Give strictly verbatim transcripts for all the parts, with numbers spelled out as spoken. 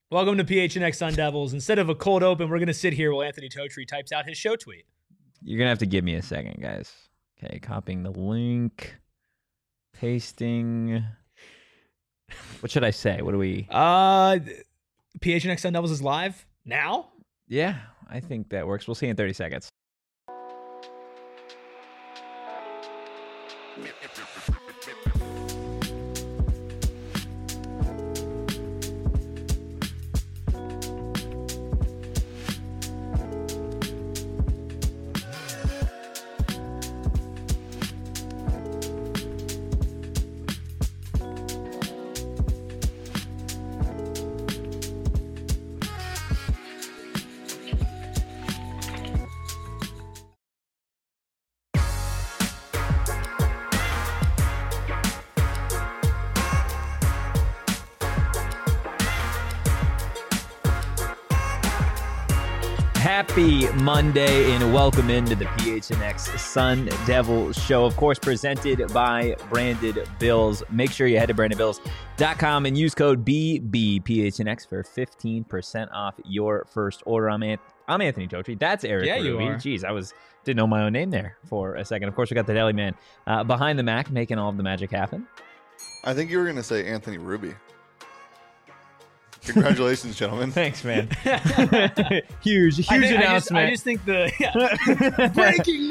Welcome to P H N X Sun Devils. Instead of a cold open, we're going to sit here while Anthony Totri types out his show tweet. You're going to have to give me a second, guys. Okay, copying the link, pasting. What should I say? What do we... Uh, P H N X Sun Devils is live now? Yeah, I think that works. We'll see you in thirty seconds. Happy Monday and welcome into the P H N X Sun Devil Show, of course, presented by Branded Bills. Make sure you head to branded bills dot com and use code B B P H N X for fifteen percent off your first order. I'm, Ant- I'm Anthony Totri. That's Eric Yeah, you Ruby. are. Jeez, I was didn't know my own name there for a second. Of course, we got the Deli Man uh, behind the Mac, making all of the magic happen. I think you were going to say Anthony Ruby. Congratulations, gentlemen. Thanks, man. huge, huge I think, announcement. I just, I just think the yeah. breaking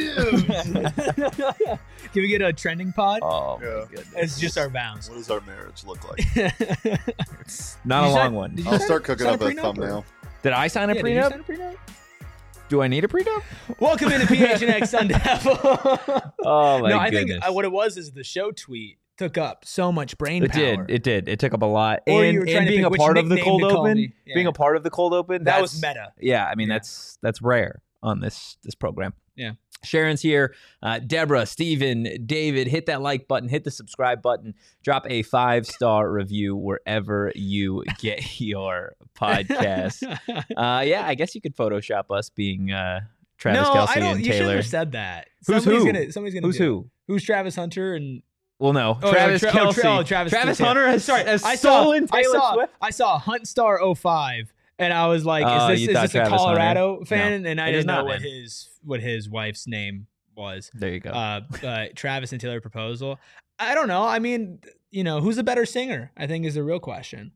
news. Can we get a trending pod? Oh, Yeah. my goodness. It's just our bounds. What does our marriage look like? It's not Did a you long sign- one. did you I'll sign- start cooking sign up a a prenup, thumbnail. Did I sign a Yeah, did you prenup? sign a prenup? Do I need a prenup? Welcome into P H N X Sun Devil. Oh, my no, I goodness. think uh, what it was is the show tweet took up so much brain It power. did. It did. It took up a lot. Or and you were trying and to being pick a which part of the nickname cold to call open, me. Yeah. being a part of the cold open, That that's, was meta. Yeah, I mean Yeah. that's that's rare on this this program. Yeah. Sharon's here. Uh, Deborah, Steven, David, hit that like button, hit the subscribe button, drop a five star review wherever you get your podcast. uh, yeah, I guess you could Photoshop us being uh, Travis no, Kelce I don't. and You shouldn't Taylor. have said that. Who's somebody's who? Gonna, somebody's gonna. Who's do who? It. Who's Travis Hunter and Well, no, oh, Travis no, Tra- oh, Kelce. Tra- oh, Travis, Travis Taylor. Hunter has, Sorry, has I saw. stolen I Taylor saw. Swift. I saw Huntstar oh five, and I was like, Oh, "Is you this, thought is this a Travis Colorado Hunter? fan?" No, and I it is didn't know not, what man. his what his wife's name was. There you go. Uh, but Travis and Taylor proposal. I don't know. I mean, you know, who's a better singer? I think is the real question.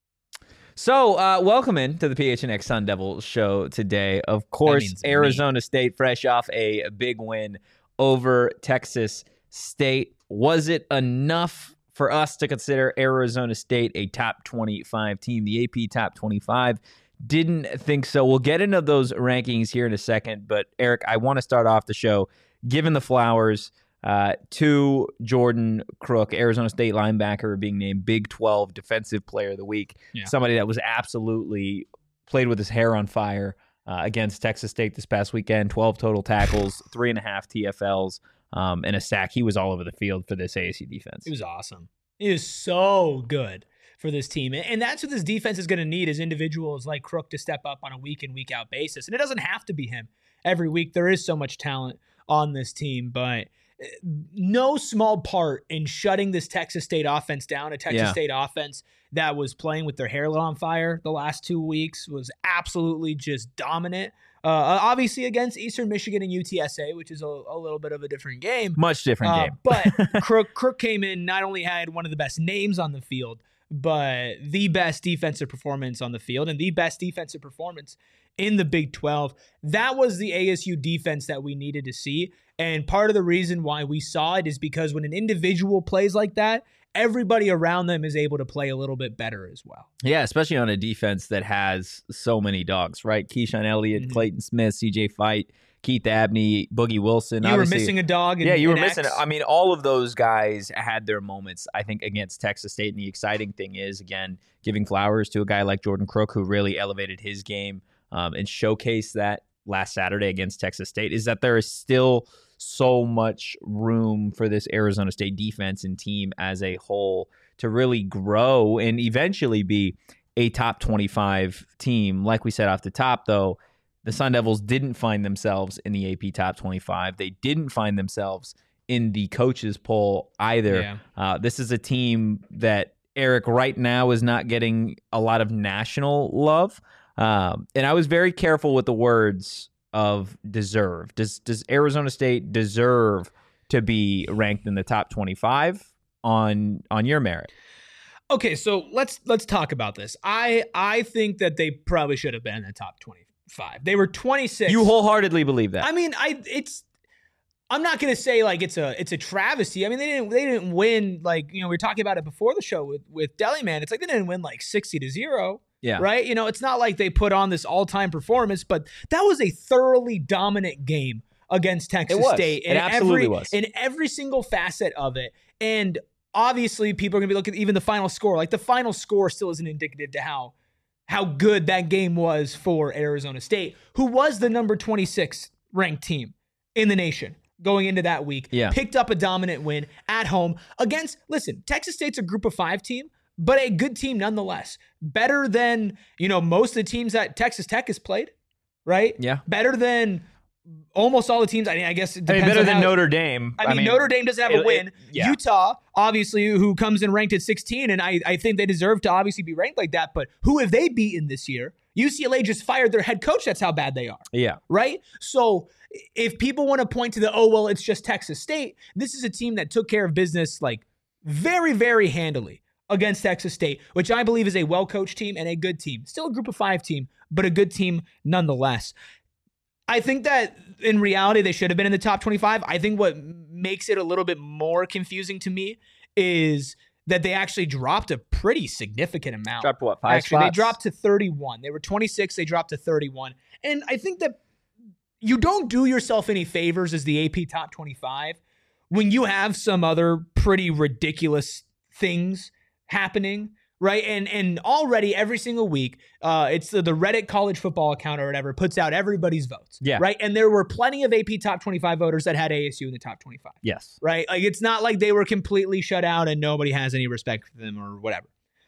So, uh, welcome in to the P H N X Sun Devil show today. Of course, means me. Arizona State fresh off a big win over Texas State. Was it enough for us to consider Arizona State a top twenty-five team? The A P top twenty-five didn't think so. We'll get into those rankings here in a second, but Eric, I want to start off the show giving the flowers uh, to Jordan Crook, Arizona State linebacker, being named Big twelve Defensive Player of the Week. Yeah. Somebody that was absolutely played with his hair on fire uh, against Texas State this past weekend. twelve total tackles, three and a half T F Ls, um, and a sack. He was all over the field for this A S U defense. He was awesome. He was so good for this team. And that's what this defense is going to need, is individuals like Crook to step up on a week in, week out basis. And it doesn't have to be him every week. There is so much talent on this team, but no small part in shutting this Texas State offense down. A Texas Yeah. State offense that was playing with their hair lit on fire the last two weeks was absolutely just dominant. Uh, obviously against Eastern Michigan and U T S A, which is a, a little bit of a different game. Much different Uh, game. but Crook, Crook came in, not only had one of the best names on the field, but the best defensive performance on the field and the best defensive performance in the Big twelve. That was the A S U defense that we needed to see. And part of the reason why we saw it is because when an individual plays like that, everybody around them is able to play a little bit better as well. Yeah, especially on a defense that has so many dogs, right? Keyshawn Elliott, Mhm. Clayton Smith, C J Fight, Keith Abney, Boogie Wilson. You were Obviously- missing a dog. In, yeah, you were in missing X. it. I mean, all of those guys had their moments, I think, against Texas State. And the exciting thing is, again, giving flowers to a guy like Jordan Crook, who really elevated his game um, and showcased that last Saturday against Texas State, is that there is still so much room for this Arizona State defense and team as a whole to really grow and eventually be a top twenty-five team. Like we said off the top, though, the Sun Devils didn't find themselves in the A P top twenty-five. They didn't find themselves in the coaches poll either. Yeah. Uh, this is a team that Eric right now is not getting a lot of national love. Um, and I was very careful with the words of deserve. Does does Arizona State deserve to be ranked in the top twenty-five on on your merit? Okay, so let's let's talk about this. I I think that they probably should have been in the top twenty-five. They were twenty-six. You wholeheartedly believe that? I mean, I it's I'm not gonna say like it's a it's a travesty. I mean, they didn't they didn't win, like, you know, we were talking about it before the show with with Deli Man. It's like they didn't win like sixty to zero. Yeah. Right? You know, it's not like they put on this all-time performance, but that was a thoroughly dominant game against Texas It was. State. It absolutely every, was. In every single facet of it. And obviously, people are going to be looking at even the final score. Like, the final score still isn't indicative to how how good that game was for Arizona State, who was the number twenty-six ranked team in the nation going into that week. Yeah. Picked up a dominant win at home against, listen, Texas State's a group of five team, but a good team nonetheless. Better than, you know, most of the teams that Texas Tech has played, right? Yeah. Better than almost all the teams. I mean, I guess it I mean, depends better on than how, Notre Dame. I mean, Notre Dame doesn't have it- a win. it- yeah. Utah, obviously, who comes in ranked at sixteen, and I, I think they deserve to obviously be ranked like that. But who have they beaten this year? U C L A just fired their head coach. That's how bad they are, Yeah. right? So if people want to point to the, oh, well, it's just Texas State, this is a team that took care of business like very, very handily against Texas State, which I believe is a well-coached team and a good team. Still a group of five team, but a good team nonetheless. I think that in reality, they should have been in the top twenty-five. I think what makes it a little bit more confusing to me is that they actually dropped a pretty significant amount. Dropped what, five Actually, spots? they dropped to thirty-one. They were twenty-six. They dropped to thirty-one. And I think that you don't do yourself any favors as the A P top twenty-five when you have some other pretty ridiculous things happening, right? And and already every single week, uh, it's the, the Reddit college football account or whatever puts out everybody's votes, Yeah. right? And there were plenty of A P top twenty-five voters that had A S U in the top twenty-five, Yes. right? Like, it's not like they were completely shut out and nobody has any respect for them or whatever.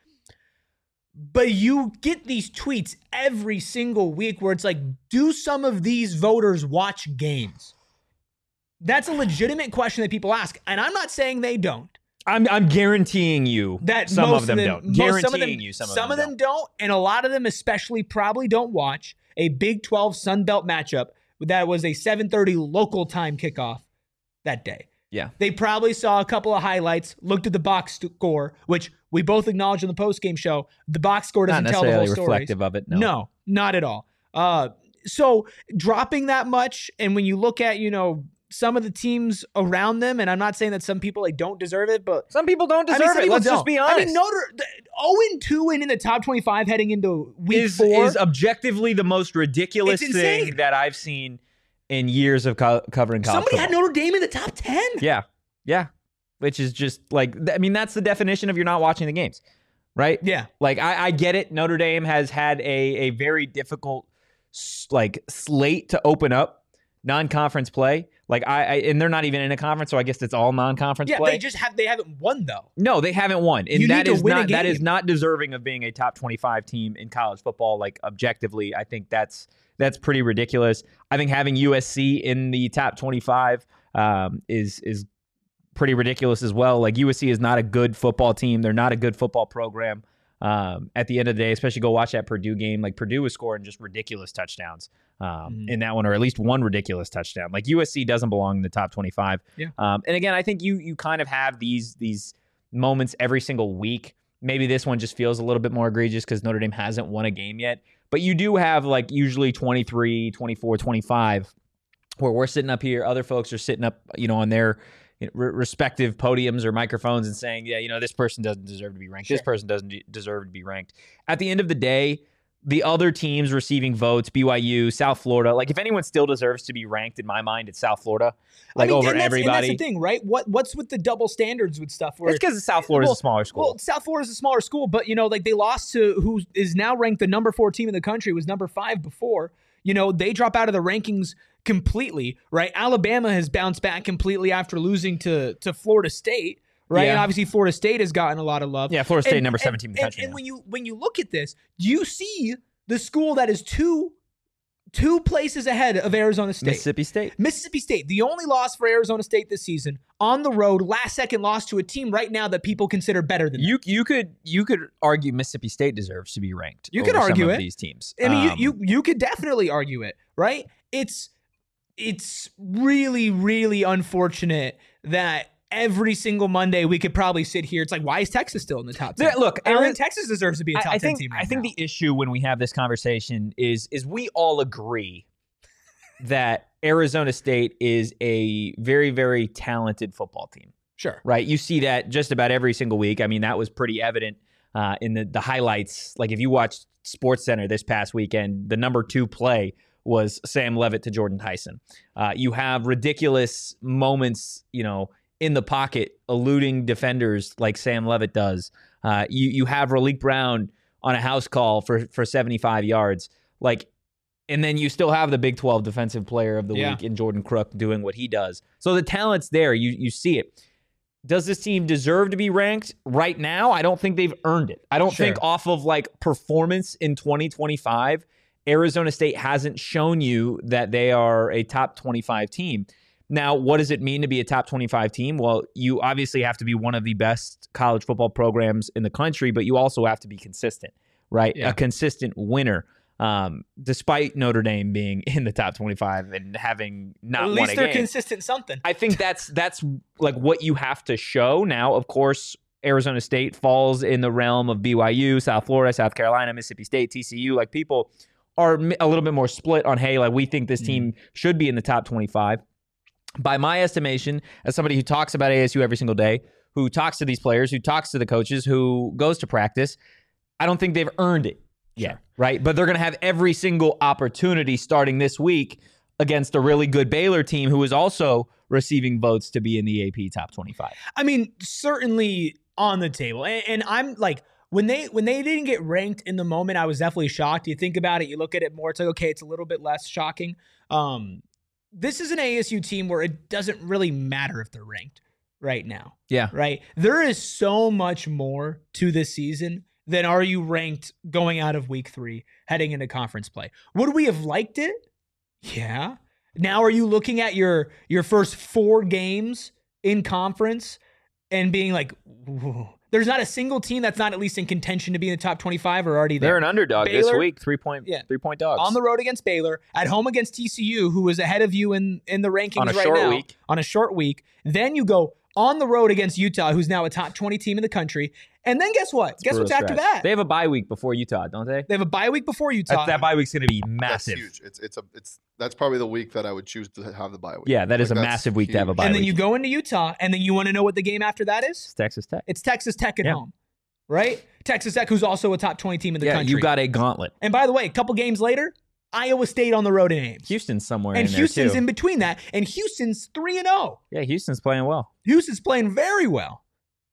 But you get these tweets every single week where it's like, do some of these voters watch games? That's a legitimate question that people ask. And I'm not saying they don't. I'm I'm guaranteeing you That some most of them, them, don't. most- Guaranteeing some of them, you some of some them, of them don't. And a lot of them especially probably don't watch a Big twelve Sun Belt matchup that was a seven thirty local time kickoff that day. Yeah. They probably saw a couple of highlights, looked at the box score, which we both acknowledged on the post-game show. The box score Not doesn't tell the necessarily whole story. reflective of it. No. No, not at all. Uh, so dropping that much, and when you look at, you know, some of the teams around them, and I'm not saying that some people like don't deserve it, but Some people don't I deserve mean, some it. people Let's just don't. be honest. I mean, Notre oh and two and in the top twenty-five heading into week is, four is objectively the most ridiculous It's thing insane. that I've seen in years of co- covering college Somebody had football. Notre Dame in the top ten. Yeah. Yeah. Which is just like, th- I mean, that's the definition of you're not watching the games, right? Yeah. Like, I, I get it. Notre Dame has had a, a very difficult, s- like, slate to open up non-conference play. Like, I, I, and they're not even in a conference, so I guess it's all non-conference Yeah, play. they just have they haven't won though. No, they haven't won, and You that need to is win a not that is game. not deserving of being a top twenty-five team in college football. Like, objectively, I think that's that's pretty ridiculous. I think having U S C in the top twenty-five um, is is pretty ridiculous as well. Like, U S C is not a good football team. They're not a good football program. Um, at the end of the day, especially go watch that Purdue game. Like, Purdue was scoring just ridiculous touchdowns um, Mhm. in that one, or at least one ridiculous touchdown. Like, U S C doesn't belong in the top twenty-five. Yeah. Um, and again, I think you you kind of have these these moments every single week. Maybe this one just feels a little bit more egregious because Notre Dame hasn't won a game yet. But you do have like usually twenty-three, twenty-four, twenty-five where we're sitting up here. Other folks are sitting up, you know, on their you know, re- respective podiums or microphones and saying, yeah, you know, this person doesn't deserve to be ranked. This Sure. person doesn't de- deserve to be ranked. At the end of the day, the other teams receiving votes, B Y U, South Florida, like if anyone still deserves to be ranked in my mind, it's South Florida. Like I mean, over and that's, everybody. And that's the thing, right? What what's with the double standards with stuff? Where It's because South Florida's well, a smaller school. Well, South Florida's a smaller school, but you know, like they lost to who is now ranked the number four team in the country, was number five before. You know, they drop out of the rankings completely, right? Alabama has bounced back completely after losing to to Florida State, right? Yeah. And obviously Florida State has gotten a lot of love. yeah, Florida State And- number and- seventeen in the and- country. And, now. when you when you look at this, you see the school that is two two places ahead of Arizona State. Mississippi State. Mississippi State, the only loss for Arizona State this season, on the road, last second loss to a team right now that people consider better than them. You you could you could argue Mississippi State deserves to be ranked. You could over argue some it. Of these teams. I mean, Um, you, you you could definitely argue it, right? It's it's really, really unfortunate that every single Monday we could probably sit here. It's like, why is Texas still in the top ten? Yeah, look, I Aaron- think Texas deserves to be a I- top I ten think, team right I think now. the issue when we have this conversation is is we all agree that Arizona State is a very, very talented football team, Sure. right? You see that just about every single week. I mean, that was pretty evident uh, in the, the highlights. Like if you watched SportsCenter this past weekend, the number two play was Sam Levitt to Jordan Tyson. Uh, you have ridiculous moments, you know, in the pocket, eluding defenders like Sam Levitt does. Uh, you you have Raleek Brown on a house call for for seventy-five yards, like, and then you still have the Big twelve Defensive Player of the Yeah. Week in Jordan Crook doing what he does. So the talent's there. You you see it. Does this team deserve to be ranked right now? I don't think they've earned it. I don't Sure. think off of like performance in twenty twenty-five, Arizona State hasn't shown you that they are a top twenty-five team. Now, what does it mean to be a top twenty-five team? Well, you obviously have to be one of the best college football programs in the country, but you also have to be consistent, right? Yeah. A consistent winner, um, despite Notre Dame being in the top twenty-five and having not At won least a they're game. consistent something. I think that's that's like what you have to show. Now, of course, Arizona State falls in the realm of B Y U, South Florida, South Carolina, Mississippi State, T C U. Like people are a little bit more split on, hey, like we think this team should be in the top twenty-five. By my estimation, as somebody who talks about A S U every single day, who talks to these players, who talks to the coaches, who goes to practice, I don't think they've earned it yet, right? But they're going to have every single opportunity starting this week against a really good Baylor team who is also receiving votes to be in the A P top twenty-five. I mean, certainly on the table. And, and I'm like, when they when they didn't get ranked in the moment, I was definitely shocked. You think about it, you look at it more, it's like, okay, it's a little bit less shocking. Um, this is an A S U team where it doesn't really matter if they're ranked right now, Yeah. right? There is so much more to this season than are you ranked going out of week three, heading into conference play. Would we have liked it? Yeah. Now are you looking at your your first four games in conference and being like, "Whoa." There's not a single team that's not at least in contention to be in the top twenty-five or already there. They're an underdog this Baylor- week, three point Yeah. three point dogs. On the road against Baylor, at home against T C U, who is ahead of you in, in the rankings On a right short now. week. On a short week. Then you go on the road against Utah, who's now a top twenty team in the country. And then guess what? guess Brutal what's after stretch. that? They have a bye week before Utah, don't they? They have a bye week before Utah. That, that bye week's going to be That's massive. huge. It's it's a it's that's probably the week that I would choose to have the bye week. Yeah, that is Like, a that's massive week to have a huge. bye and then week. you go into Utah, and then you want to know what the game after that is? It's Texas Tech. It's Texas Tech at Yeah. home, right? Texas Tech, who's also a top twenty team in the Yeah, country. you got a gauntlet. and by the way, a couple games later, Iowa State on the road in Ames. Houston's somewhere and in Houston's there, too. in between that. And Houston's three and oh. Yeah, Houston's playing well. Houston's playing very well.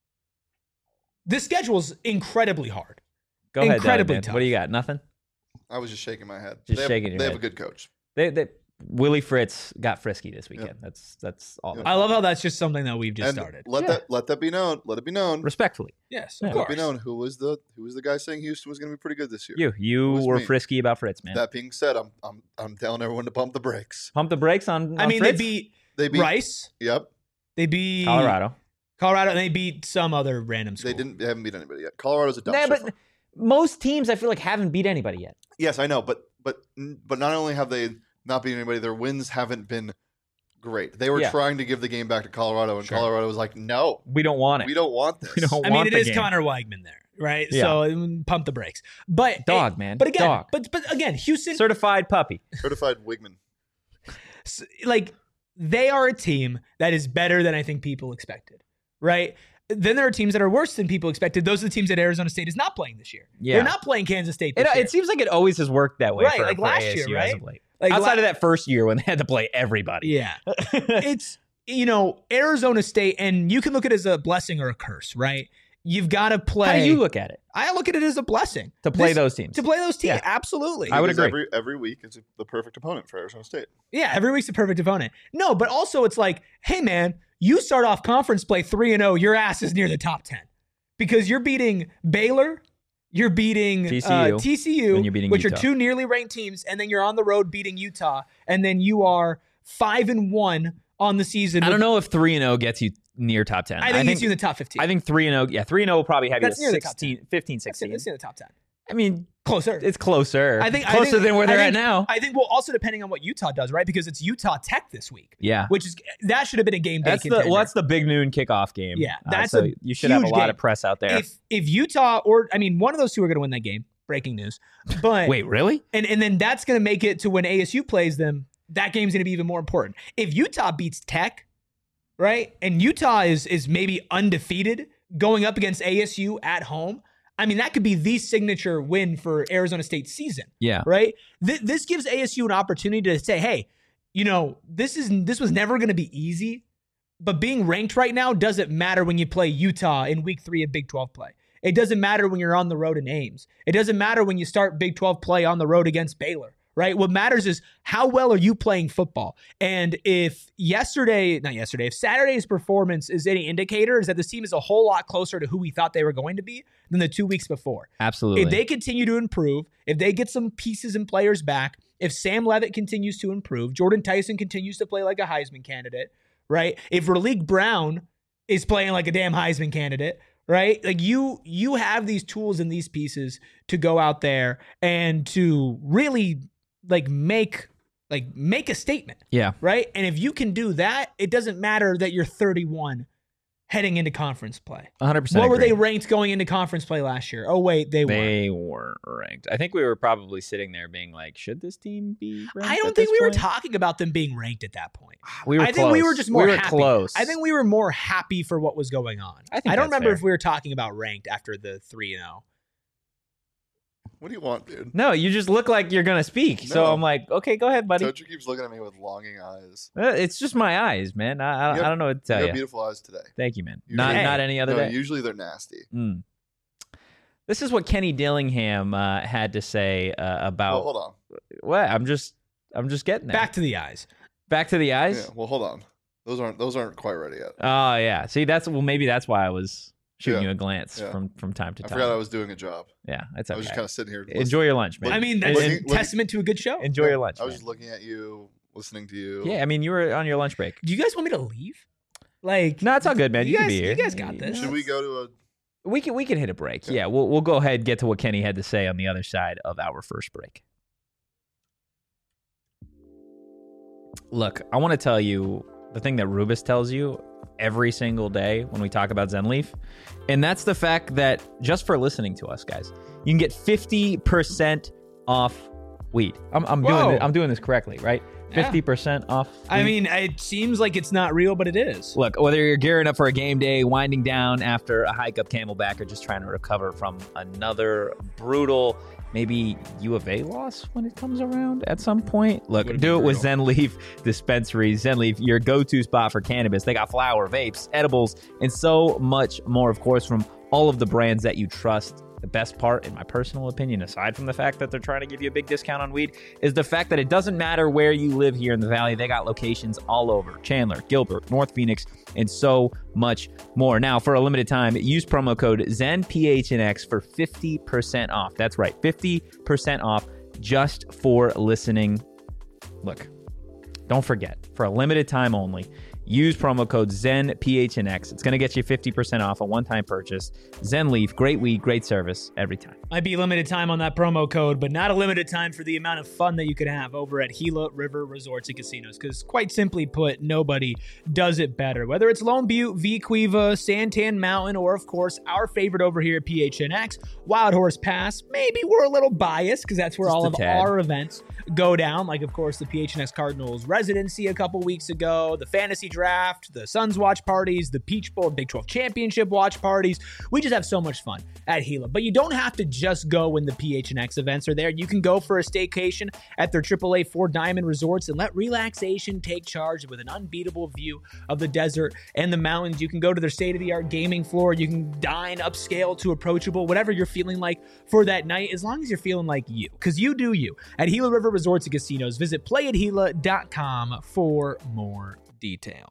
This schedule's incredibly hard. Go ahead, Doug, Incredibly man. tough. What do you got? Nothing? I was just shaking my head. Just they have, shaking your They head. have a good coach. They, they, Willie Fritz got frisky this weekend. Yep. That's that's all. Yep. I love how that's just something that we've just and started. let Yeah. that let that be known. Let it be known. Respectfully. Yes, Yeah. of Let it course. be known who was the who was the guy saying Houston was going to be pretty good this year. You you was were me. frisky about Fritz, man. That being said, I'm I'm I'm telling everyone to pump the brakes. Pump the brakes on, I on mean, Fritz? they beat They beat Rice. Yep. They beat Colorado. Colorado, and they beat some other random school. They didn't. They haven't beat anybody yet. Colorado's a dumpster. Yeah, but fire. most teams I feel like haven't beat anybody yet. Yes, I know, but but but not only have they not beat anybody, their wins haven't been great. They were Yeah. trying to give the game back to Colorado, and Sure. Colorado was like, "No, We don't want it. we don't want this." We don't I want mean, it the is game. Connor Weigman there, right? Yeah. So mm, pump the brakes. But Dog, man. But again, Dog. but but again, Houston, Certified puppy. Certified Wigman. s- like they are a team that is better than I think people expected, right? Then there are teams that are worse than people expected. Those are the teams that Arizona State is not playing this year. Yeah. They're not playing Kansas State It, this year. it seems like it always has worked that way Right, for, like for last A S U year, as right? of late. Like, Outside la- of that first year when they had to play everybody. Yeah. It's, you know, Arizona State, and you can look at it as a blessing or a curse, right? You've got to play. How do you look at it? I look at it as a blessing. To play This- those teams. To play those teams, Yeah. absolutely. I would Because agree. Every every week is the perfect opponent for Arizona State. Yeah, every week's a perfect opponent. No, but also it's like, hey man, you start off conference play three and oh, your ass is near the top ten because you're beating Baylor, you're beating T C U, uh, T C U, and you're beating which Utah. are two nearly ranked teams, and then you're on the road beating Utah, and then you are five and one on the season. I don't know if three and zero gets you near top ten. I think, I think it's you in the top fifteen. I think three and zero. Yeah, three and zero will probably have That's you near at the top sixteen, fifteen, That's in, sixteen. that's in the top ten. I mean, Closer. it's closer. I think I closer think- than where they're I at think- now. I think, well, also depending on what Utah does, right? Because it's Utah Tech this week, Yeah. which is that should have been a game day That's the contender. well, that's the big noon kickoff game. Yeah, Uh, that's so a you should have a huge lot game. of press out there. if if Utah or I mean one of those two are going to win that game. Breaking news, but Wait, really? and and then that's going to make it to when A S U plays them. That game's going to be even more important. If Utah beats Tech, right, and Utah is is maybe undefeated going up against A S U at home, I mean that could be the signature win for Arizona State's season. Yeah. Right? Th- this gives A S U an opportunity to say, hey, you know, this is this was never going to be easy, but being ranked right now doesn't matter when you play Utah in week three of Big twelve play. It doesn't matter when you're on the road in Ames. It doesn't matter when you start Big twelve play on the road against Baylor, right? What matters is how well are you playing football? And if yesterday, not yesterday, if Saturday's performance is any indicator, is that this team is a whole lot closer to who we thought they were going to be than the two weeks before. Absolutely. If they continue to improve, if they get some pieces and players back, if Sam Levitt continues to improve, Jordan Tyson continues to play like a Heisman candidate, right? If Raleek Brown is playing like a damn Heisman candidate, right? Like you, you have these tools and these pieces to go out there and to really like make, like make a statement, yeah. right? And if you can do that, it doesn't matter that you're thirty-one heading into conference play. one hundred percent What were agree. they ranked going into conference play last year? Oh wait, they, were. They weren't ranked. I think we were probably sitting there being like, should this team be ranked? I don't at think this we were point? talking about them being ranked at that point. We were I think we close. were just more we were happy. close. I think we were more happy for what was going on. I think I don't that's remember fair. if we were talking about ranked after the three and oh. What do you want, dude? No, you just look like you're gonna speak. So No. I'm like, okay, go ahead, buddy. Tojo keeps looking at me with longing eyes. Uh, It's just my eyes, man. I, I, You have- I don't know what to tell you you. have beautiful eyes today. Thank you, man. Usually- Not Hey. not any other No, day. usually they're nasty. Mm. This is what Kenny Dillingham uh, had to say uh, Well, about hold on. what I'm just I'm just getting there. Back to the eyes. Back to the eyes. Yeah, well, hold on. Those aren't those aren't quite ready yet. Oh yeah. See, that's well, maybe that's why I was shooting Yeah. you a glance Yeah. from from time to I time. forgot I was doing a job. yeah, it's I okay. was just kind of sitting here. Enjoy your lunch, man. I mean, And- that's and Looking- looking- testament to a good show. enjoy listening. your lunch. I was man. just looking at you, listening to you. Yeah, I mean, you were on your lunch break. Do you guys want me to leave? Like, No, it's all good, man. You, You can guys- be here. you guys got this. Should we go to a? We can we can hit a break. Okay. Yeah, we'll we'll go ahead and get to what Kenny had to say on the other side of our first break. Look, I want to tell you the thing that Rubus tells you every single day when we talk about ZenLeaf, and that's the fact that just for listening to us, guys, you can get fifty percent off weed. I'm I'm Whoa. doing it, I'm doing this correctly, right? Yeah. fifty percent off. I weed. mean, it seems like it's not real, but it is. Look, whether you're gearing up for a game day, winding down after a hike up Camelback, or just trying to recover from another brutal, maybe U of A loss when it comes around at some point, look, Would've do been it with brutal. ZenLeaf Dispensary. ZenLeaf, your go-to spot for cannabis. They got flower, vapes, edibles, and so much more, of course, from all of the brands that you trust. The best part, in my personal opinion, aside from the fact that they're trying to give you a big discount on weed, is the fact that it doesn't matter where you live here in the Valley. They got locations all over. Chandler, Gilbert, North Phoenix, and so much more. Now, for a limited time, use promo code ZenPHNX for fifty percent off. That's right, fifty percent off just for listening. Look, don't forget, for a limited time only, use promo code ZenPHNX. It's going to get you fifty percent off a one-time purchase. ZenLeaf, great weed, great service every time. Might be limited time on that promo code, but not a limited time for the amount of fun that you could have over at Gila River Resorts and Casinos. Because quite simply put, nobody does it better. Whether it's Lone Butte, V Quiva, Santan Mountain, or of course our favorite over here at P H N X, Wild Horse Pass. Maybe we're a little biased because that's where Just all a of tad. our events go down. Like of course the P H N X Cardinals residency a couple weeks ago, the fantasy draft, the Suns watch parties, the Peach Bowl, Big twelve championship watch parties. We just have so much fun at Gila. But you don't have to just go when the P H N X events are there. You can go for a staycation at their triple A Four Diamond Resorts and let relaxation take charge with an unbeatable view of the desert and the mountains. You can go to their state-of-the-art gaming floor. You can dine upscale to approachable, whatever you're feeling like for that night, as long as you're feeling like you, because you do you. At Gila River Resorts and Casinos, visit play at gila dot com for more details.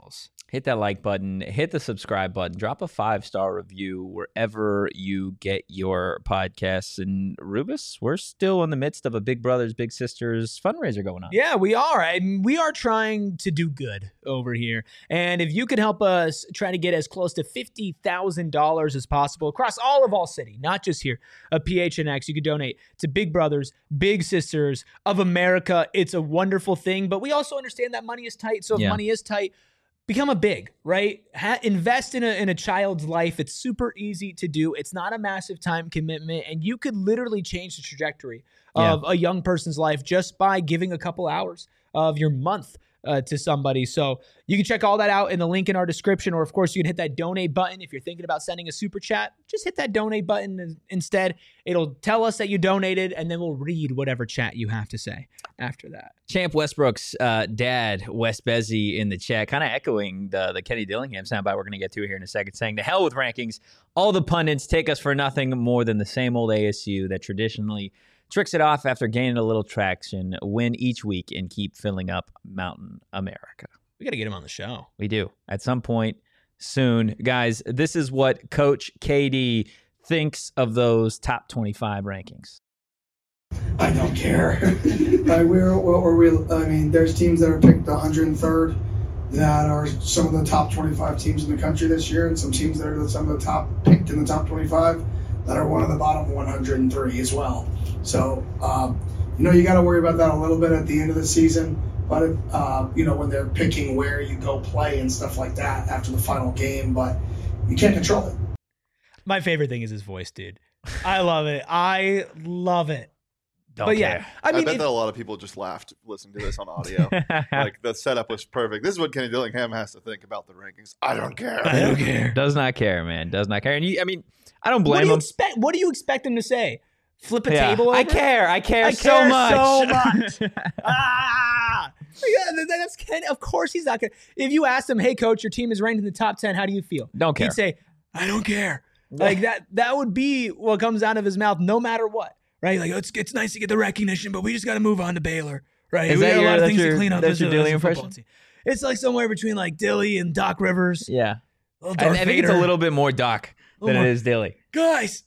hit that like button, hit the subscribe button, drop a five-star review wherever you get your podcasts. And Rubus, we're still in the midst of a Big Brothers Big Sisters fundraiser going on. Yeah, we are. I mean, we are trying to do good over here. And if you could help us try to get as close to fifty thousand dollars as possible across all of All City, not just here at P H N X, you could donate to Big Brothers Big Sisters of America. It's a wonderful thing, but we also understand that money is tight. So if Yeah. money is tight, become a big, right? Ha- invest in a in a child's life. It's super easy to do. It's not a massive time commitment, and you could literally change the trajectory Yeah. of a young person's life just by giving a couple hours of your month uh, to somebody. So you can check all that out in the link in our description, or of course you can hit that donate button. If you're thinking about sending a super chat, just hit that donate button instead. It'll tell us that you donated, and then we'll read whatever chat you have to say after that. Champ Westbrook's uh, dad, Wes Bezzy, in the chat, kind of echoing the, the Kenny Dillingham soundbite we're going to get to here in a second, saying, to hell with rankings. All the pundits take us for nothing more than the same old A S U that traditionally tricks it off after gaining a little traction, win each week, and keep filling up Mountain America. We got to get him on the show. We do. At some point soon. Guys, this is what Coach K D thinks of those top twenty-five rankings. I don't care. Like we're, or we, I mean, there's teams that are picked one hundred third that are some of the top twenty-five teams in the country this year, and some teams that are some of the top picked in the top twenty-five that are one of the bottom one hundred three as well. So, um, you know, you got to worry about that a little bit at the end of the season. But, uh, you know, when they're picking where you go play and stuff like that after the final game, but you can't control it. My favorite thing is his voice, dude. I love it. I love it. Don't but care. yeah, I I, mean, bet it- that a lot of people just laughed listening to this on audio. Like the setup was perfect. This is what Kenny Dillingham has to think about the rankings. I don't care. I don't care. Does not care, man. Does not care. And you, I mean, I don't What blame do you him. expect? What do you expect him to say? Flip a Yeah. table over? I care. I care I so care much. so much. ah, yeah, that- that's Kenny. Of course he's not gonna. If you asked him, "Hey, coach, your team is ranked in the top ten. How do you feel?" Don't care. He'd say, "I don't care." Like that. That would be what comes out of his mouth, no matter what. Right? Like it's it's nice to get the recognition, but we just got to move on to Baylor. Right? Is we that got a your- lot of that's things your- to clean up. that's as your a- Dilly as a football impression? team. It's like somewhere between like Dilly and Doc Rivers. Yeah. Little I, I Darth think it's a Vader. little bit more Doc than Little it more- is Dilly. guys.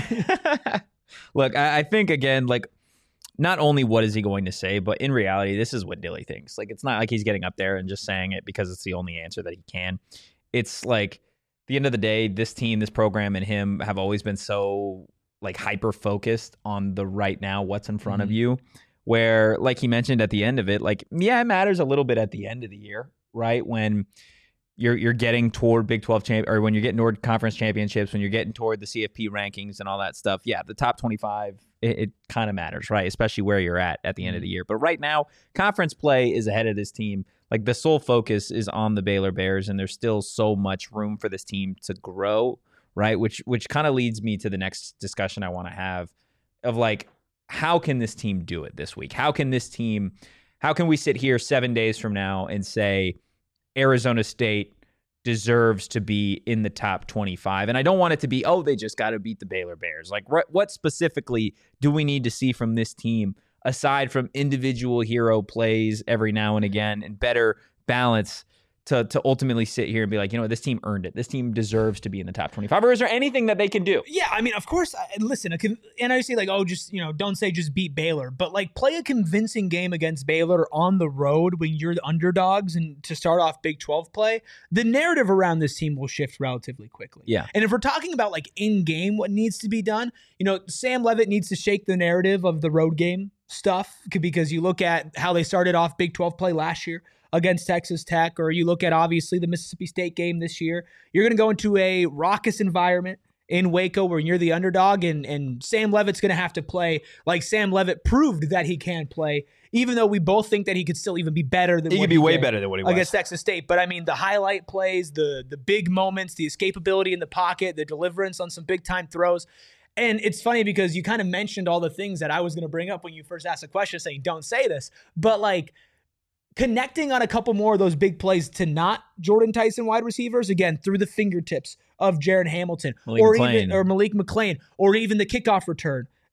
Yeah. Look, I, I think, again, like, not only what is he going to say, but in reality, this is what Dilly thinks. Like, it's not like he's getting up there and just saying it because it's the only answer that he can. It's like, at the end of the day, this team, this program, and him have always been so, like, hyper-focused on the right now, what's in front of Mhm. you, where, like he mentioned at the end of it, like, yeah, it matters a little bit at the end of the year, right? When you're you're getting toward Big twelve champ, or when you're getting toward conference championships, when you're getting toward the C F P rankings and all that stuff. Yeah, the top twenty-five, it, it kind of matters, right? Especially where you're at at the end of the year. But right now, conference play is ahead of this team. Like the sole focus is on the Baylor Bears, and there's still so much room for this team to grow, right? Which which kind of leads me to the next discussion I want to have of like, how can this team do it this week? How can this team, how can we sit here seven days from now and say Arizona State deserves to be in the top twenty-five? And I don't want it to be, oh, they just got to beat the Baylor Bears. Like, what, what specifically do we need to see from this team aside from individual hero plays every now and again and better balance to to ultimately sit here and be like, you know what, this team earned it. This team deserves to be in the top twenty-five. Or is there anything that they can do? Yeah, I mean, of course. I- Listen, a con- and I say like, oh, just you know, don't say just beat Baylor, but like play a convincing game against Baylor on the road when you're the underdogs, and to start off Big twelve play, the narrative around this team will shift relatively quickly. Yeah. And if we're talking about like in game, what needs to be done, you know, Sam Levitt needs to shake the narrative of the road game stuff, because you look at how they started off Big twelve play last year against Texas Tech, or you look at obviously the Mississippi State game this year. You're going to go into a raucous environment in Waco where you're the underdog, and, and Sam Levitt's going to have to play like Sam Levitt proved that he can play, even though we both think that he could still even be better than He what could be way did better than what he was. against Texas State. But I mean, the highlight plays, the the big moments, the escapability in the pocket, the deliverance on some big time throws. And it's funny because you kind of mentioned all the things that I was going to bring up when you first asked the question, saying, don't say this. But like, connecting on a couple more of those big plays to not Jordan Tyson wide receivers, again, through the fingertips of Jaron Hamilton Malik or McClain. even or Malik McClain, or even the kickoff return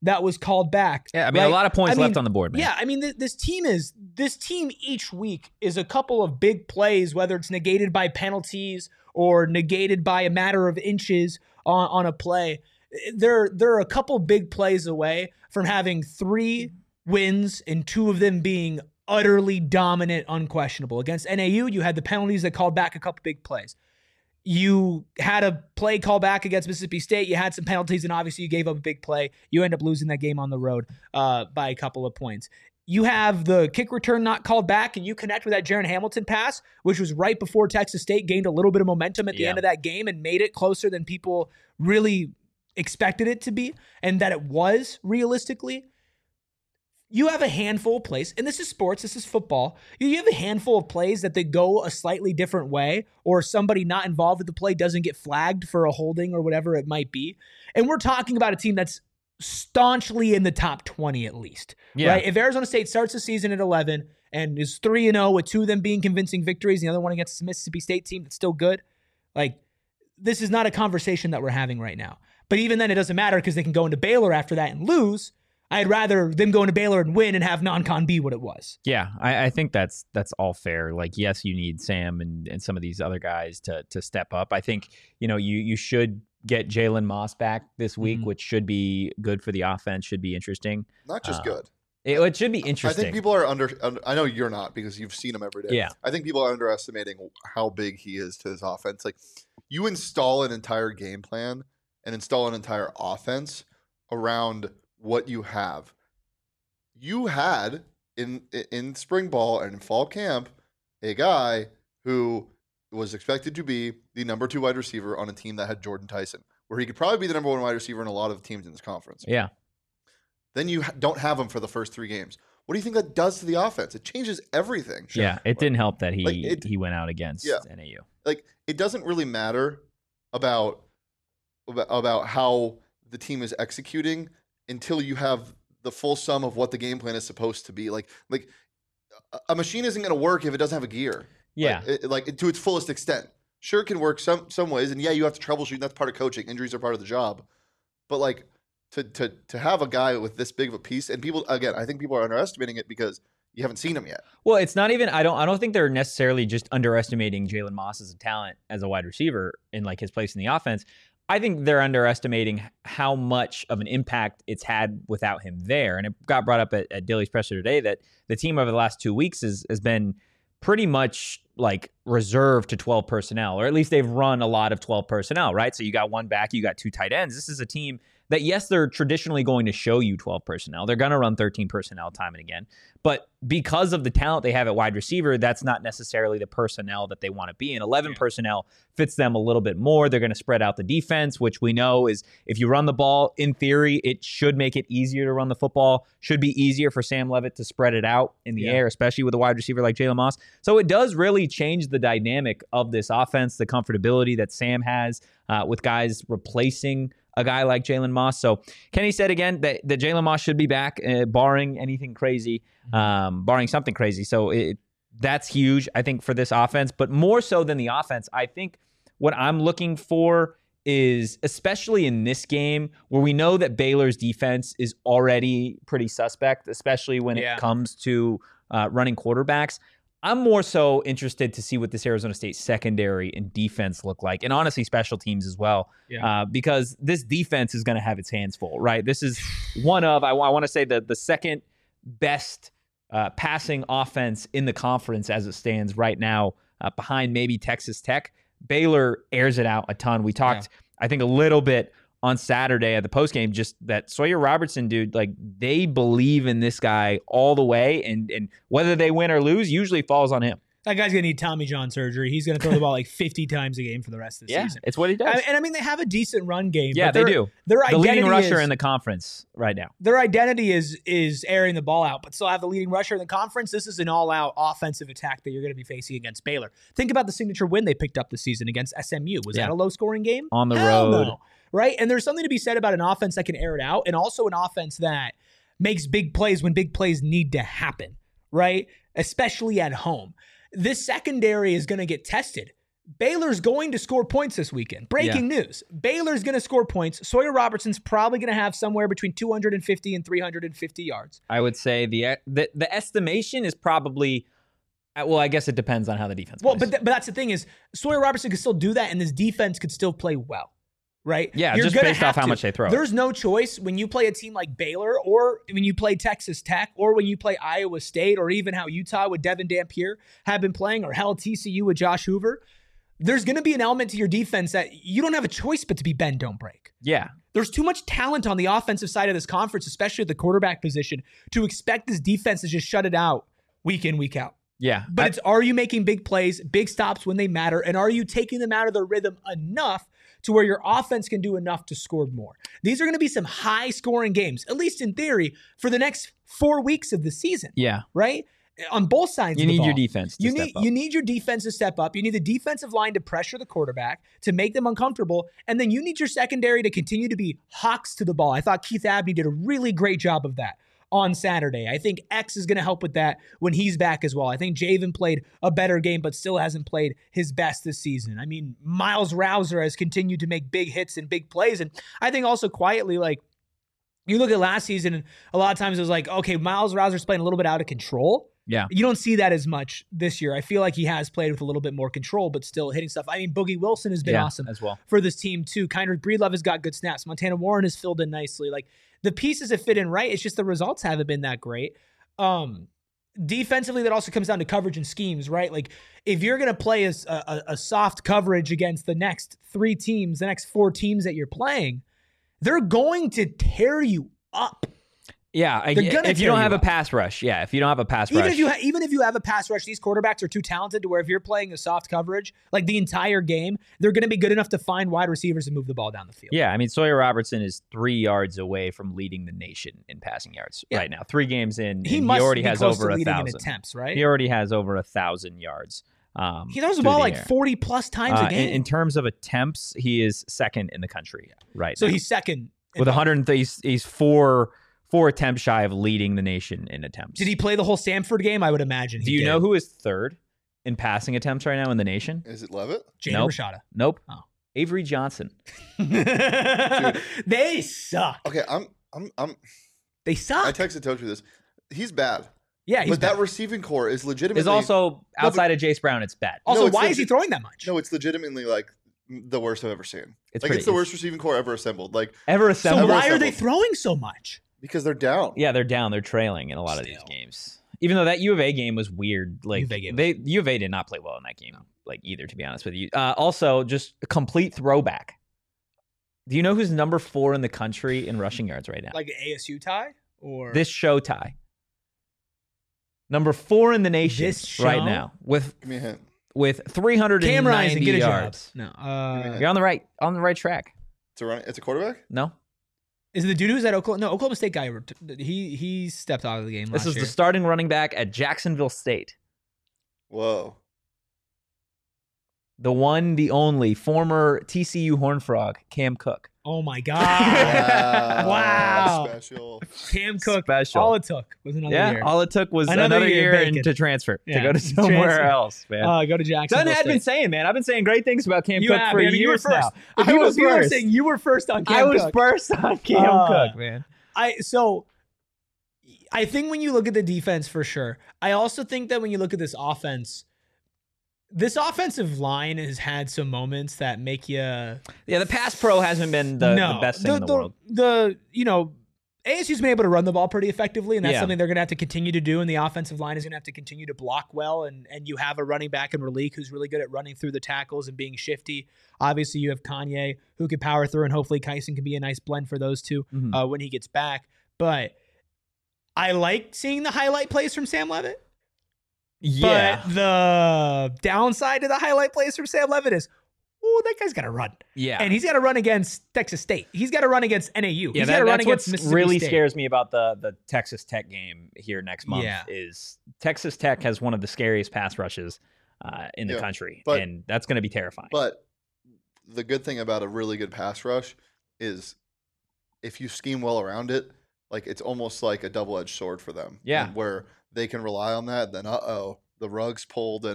that was called back. Yeah, I mean, right? a lot of points I mean, left on the board, man. Yeah, I mean, th- this team is this team each week is a couple of big plays, whether it's negated by penalties or negated by a matter of inches on, on a play. They're they're a couple big plays away from having three wins and two of them being utterly dominant, unquestionable. Against N A U, you had the penalties that called back a couple big plays. You had a play call back against Mississippi State. You had some penalties, and obviously you gave up a big play. You end up losing that game on the road uh, by a couple of points. You have the kick return not called back, and you connect with that Jaron Hamilton pass, which was right before Texas State gained a little bit of momentum at the Yeah. end of that game and made it closer than people really expected it to be, and that it was realistically. You have a handful of plays, and this is sports, this is football. You have a handful of plays that they go a slightly different way, or somebody not involved with the play doesn't get flagged for a holding or whatever it might be. And we're talking about a team that's staunchly in the top twenty at least. Yeah. Right? If Arizona State starts the season at eleven and is three and oh with two of them being convincing victories, and the other one against the Mississippi State team that's still good, like, this is not a conversation that we're having right now. But even then, it doesn't matter because they can go into Baylor after that and lose. I'd rather them go into Baylor and win and have non-con be what it was. Yeah, I, I think that's that's all fair. Like, yes, you need Sam and, and some of these other guys to to step up. I think, you know, you you should get Jalen Moss back this week, Mhm. which should be good for the offense, should be interesting. Not just Uh, good. It, it should be interesting. I think people are under, under. I know you're not because you've seen him every day. Yeah. I think people are underestimating how big he is to his offense. Like, you install an entire game plan and install an entire offense around what you have. You had in in spring ball and in fall camp a guy who was expected to be the number two wide receiver on a team that had Jordan Tyson, where he could probably be the number one wide receiver in a lot of teams in this conference. Yeah. Then you ha- don't have him for the first three games. What do you think that does to the offense? It changes everything. Yeah, it didn't help that he Like, it- he went out against Yeah. N A U. Like, it doesn't really matter about about, about how the team is executing until you have the full sum of what the game plan is supposed to be. Like, like a- a machine isn't going to work if it doesn't have a gear. Yeah. Like, it, like to its fullest extent. Sure, it can work some some ways, and yeah, you have to troubleshoot. And that's part of coaching. Injuries are part of the job. But like to to to have a guy with this big of a piece, and people again, I think people are underestimating it because you haven't seen him yet. Well, it's not even. I don't. I don't think they're necessarily just underestimating Jalen Moss as a talent as a wide receiver in like his place in the offense. I think they're underestimating how much of an impact it's had without him there. And it got brought up at, at Dilly's presser today that the team over the last two weeks has has been pretty much like reserved to twelve personnel, or at least they've run a lot of twelve personnel, right? So you got one back, you got two tight ends. This is a team that, yes, they're traditionally going to show you twelve personnel. They're going to run thirteen personnel time and again. But because of the talent they have at wide receiver, that's not necessarily the personnel that they want to be in. eleven yeah. personnel fits them a little bit more. They're going to spread out the defense, which we know is if you run the ball, in theory, it should make it easier to run the football. Should be easier for Sam Leavitt to spread it out in the yeah. air, especially with a wide receiver like Jalen Moss. So it does really change the dynamic of this offense, the comfortability that Sam has uh, with guys replacing a guy like Jalen Moss. So Kenny said again that, that Jalen Moss should be back, uh, barring anything crazy, um, barring something crazy. So it, that's huge, I think, for this offense. But more so than the offense, I think what I'm looking for is, especially in this game, where we know that Baylor's defense is already pretty suspect, especially when yeah. it comes to uh, running quarterbacks. I'm more so interested to see what this Arizona State secondary and defense look like, and honestly special teams as well, yeah. uh, because this defense is going to have its hands full, right? This is one of, I, I want to say, the, the second best uh, passing offense in the conference as it stands right now, uh, behind maybe Texas Tech. Baylor airs it out a ton. We talked, yeah. I think, a little bit on Saturday at the postgame, just that Sawyer Robertson, dude, like, they believe in this guy all the way, and and whether they win or lose usually falls on him. That guy's going to need Tommy John surgery. He's going to throw the ball like fifty times a game for the rest of the yeah, season. It's what he does. I, and I mean, they have a decent run game. Yeah, but they do. Their the leading rusher is, in the conference right now. Their identity is is airing the ball out, but still have the leading rusher in the conference. This is an all-out offensive attack that you're going to be facing against Baylor. Think about the signature win they picked up this season against S M U. Was yeah. that a low-scoring game? On the Hell road. No. Right? And there's something to be said about an offense that can air it out, and also an offense that makes big plays when big plays need to happen, right? Especially at home. This secondary is going to get tested Baylor's going to score points this weekend. Breaking yeah. news. Baylor's going to score points. Sawyer Robertson's probably going to have somewhere between two hundred fifty and three hundred fifty yards. I would say the the, the estimation is probably, well, I guess it depends on how the defense Well, plays. but, th- but that's the thing is Sawyer Robertson could still do that, and this defense could still play well, right? Yeah, You're just gonna based off have how to. much they throw. There's no choice when you play a team like Baylor, or when you play Texas Tech, or when you play Iowa State, or even how Utah with Devin Dampier have been playing, or hell, T C U with Josh Hoover. There's going to be an element to your defense that you don't have a choice but to be bend, don't break. Yeah. There's too much talent on the offensive side of this conference, especially at the quarterback position, to expect this defense to just shut it out week in, week out. Yeah. But I, it's, are you making big plays, big stops when they matter, and are you taking them out of their rhythm enough to where your offense can do enough to score more? These are going to be some high-scoring games, at least in theory, for the next four weeks of the season. Yeah. Right? On both sides you of the need ball. your defense to you step need, up. You need your defense to step up. You need the defensive line to pressure the quarterback, to make them uncomfortable, and then you need your secondary to continue to be hawks to the ball. I thought Keith Abney did a really great job of that on Saturday. I think X is going to help with that when he's back as well. I think Javen played a better game, but still hasn't played his best this season. I mean, Miles Rouser has continued to make big hits and big plays, and I think also quietly, like, you look at last season, and a lot of times it was like, okay, Miles Rouser's playing a little bit out of control. Yeah. You don't see that as much this year. I feel like he has played with a little bit more control, but still hitting stuff. I mean, Boogie Wilson has been yeah, awesome as well for this team too. Kindred Breedlove has got good snaps. Montana Warren has filled in nicely. Like, the pieces have fit in right. It's just the results haven't been that great. Um, defensively, that also comes down to coverage and schemes, right? Like, if you're going to play a, a, a soft coverage against the next three teams, the next four teams that you're playing, they're going to tear you up. Yeah, I, They're gonna if you tear don't you have up. a pass rush, yeah, if you don't have a pass Even rush. if you ha- even if you have a pass rush, these quarterbacks are too talented to where if you're playing a soft coverage, like the entire game, they're going to be good enough to find wide receivers and move the ball down the field. Yeah, I mean, Sawyer Robertson is three yards away from leading the nation in passing yards Yeah. right now. Three games in, He and must he already be has close over to a leading in thousand attempts, right? He already has over a thousand yards. Um, He throws the through ball like air. forty plus times Uh, a game. in, in terms of attempts, he is second in the country right so now. he's second. in with both. one hundred. He's, he's four four attempts shy of leading the nation in attempts. Did he play the whole Stanford game? I would imagine. Do he you did. know who is third in passing attempts right now in the nation? Is it Levitt? Jaden Nope. Rashada. Nope. Oh. Avery Johnson. They suck. Okay, I'm I'm I'm They I suck. texted Tochi this. He's bad. yeah, he's but that bad. receiving core is legitimately Is also but- outside of Jace Brown. It's bad. Also, No, it's why legit- is he throwing that much? No, it's legitimately like the worst I've ever seen. It's like pretty- it's the it's- worst receiving core ever assembled. Like Ever so assembled? why are they assembled. throwing so much? because they're down. Yeah, they're down. They're trailing in a lot of these Still. games. Even though that U of A game was weird. Like U of A game was- they U of A did not play well in that game. Like either, to be honest with you. Uh, also, just a complete throwback. Do you know who's number four in the country in rushing yards right now? Like an A S U tie or This show tie. Number four in the nation This right show? now with Give me a hint. with three hundred Cam Rising? ninety Get a yards. job. No. Uh, You're on the right on the right track. It's a run. It's a quarterback. No, is it the dude who's at Oklahoma? No, Oklahoma State guy. He he stepped out of the game this last is year. the starting running back at Jacksonville State. Whoa. The one, the only former T C U Horned Frog, Cam Cook. Oh my god! Wow. Wow. Special. Cam Cook. Special. All it took was another Yeah, year. all it took was Another another, year year, bacon. and to transfer Yeah, to go to somewhere transfer. else, man. Uh, go to Jacksonville. Dunn had State. been saying, man, I've been saying great things about Cam You Cook have, for man. You were years first. now. People, I was people are first. saying you were first on Cam I was Cook. first on Cam Uh, Cook, man. I so I think when you look at the defense for sure. I also think that when you look at this offense, this offensive line has had some moments that make you Yeah, the pass pro hasn't been the, no, the best thing in the, world. The you know, A S U's been able to run the ball pretty effectively, and that's Yeah. something they're going to have to continue to do. And the offensive line is going to have to continue to block well. And and you have a running back in Raleek who's really good at running through the tackles and being shifty. Obviously, you have Kanye who can power through, and hopefully Kyson can be a nice blend for those two Mhm. uh, when he gets back. But I like seeing the highlight plays from Sam Levitt. Yeah, But the downside to the highlight plays from Sam Levitt is, oh, that guy's got to run. yeah. And he's got to run against Texas State. He's got to run against N A U. Yeah, he's that, got to run that's against what Mississippi really State. scares me about the the Texas Tech game here next month. Yeah. Is Texas Tech has one of the scariest pass rushes uh, in the Yeah, country, but- and that's going to be terrifying. But the good thing about a really good pass rush is if you scheme well around it, like it's almost like a double-edged sword for them. Yeah. And where they can rely on that, then uh-oh, the rug's pulled and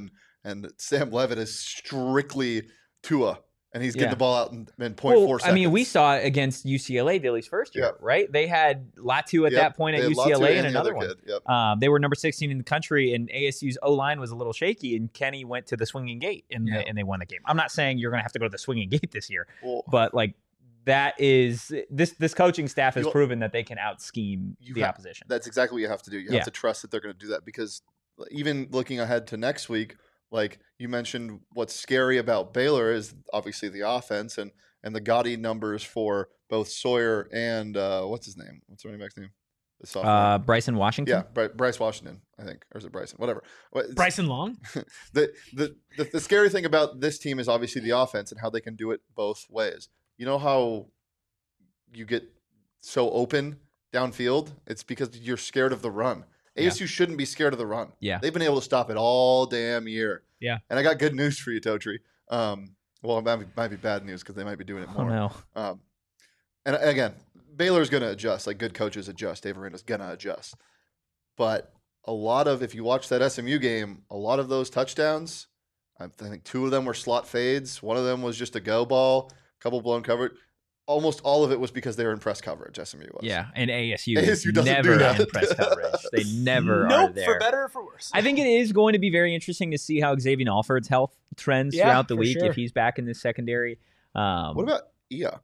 and Sam Levitt is strictly Tua, and he's getting Yeah. the ball out in, in point Well, four I seconds. mean, we saw it against U C L A Dilly's first year, Yeah. right? They had Latu at Yep, that point they at had U C L A Latu and the another other one. kid. Yep. Um, they were number sixteen in the country, and A S U's O-line was a little shaky, and Kenny went to the swinging gate, and, Yeah. the, and they won the game. I'm not saying you're going to have to go to the swinging gate this year, Well, but like that is this this coaching staff has You- proven that they can out scheme You the have- opposition. that's exactly what you have to do. You have Yeah. to trust that they're going to do that, because even looking ahead to next week, like you mentioned, what's scary about Baylor is obviously the offense and and the gaudy numbers for both Sawyer and uh, what's his name? What's the running back's name? The sophomore. Uh, Bryson Washington. yeah, Bry- Bryce Washington, I think, or is it Bryson? Whatever. What- it's- Bryson Long. the, the the the scary thing about this team is obviously the offense and how they can do it both ways. You know how you get so open downfield? It's because you're scared of the run. A S U shouldn't be scared of the run. Yeah. They've been able to stop it all damn year. Yeah. And I got good news for you, Totri. Um, well, it might be, might be bad news because they might be doing it Oh more. no. Um, and again, Baylor's going to adjust. Like good coaches adjust. Dave Aranda's going to adjust. But a lot of, if you watch that S M U game, a lot of those touchdowns, I think two of them were slot fades. One of them was just a go ball, a couple blown coverage. Almost all of it was because they were in press coverage, S M U was. Yeah, and A S U, A S is U doesn't do never that. in press coverage. They never are Nope, there. for better or for worse. I think it is going to be very interesting to see how Xavier Alford's health trends Yeah, throughout the for week sure. if he's back in the secondary. Um, What about Ia?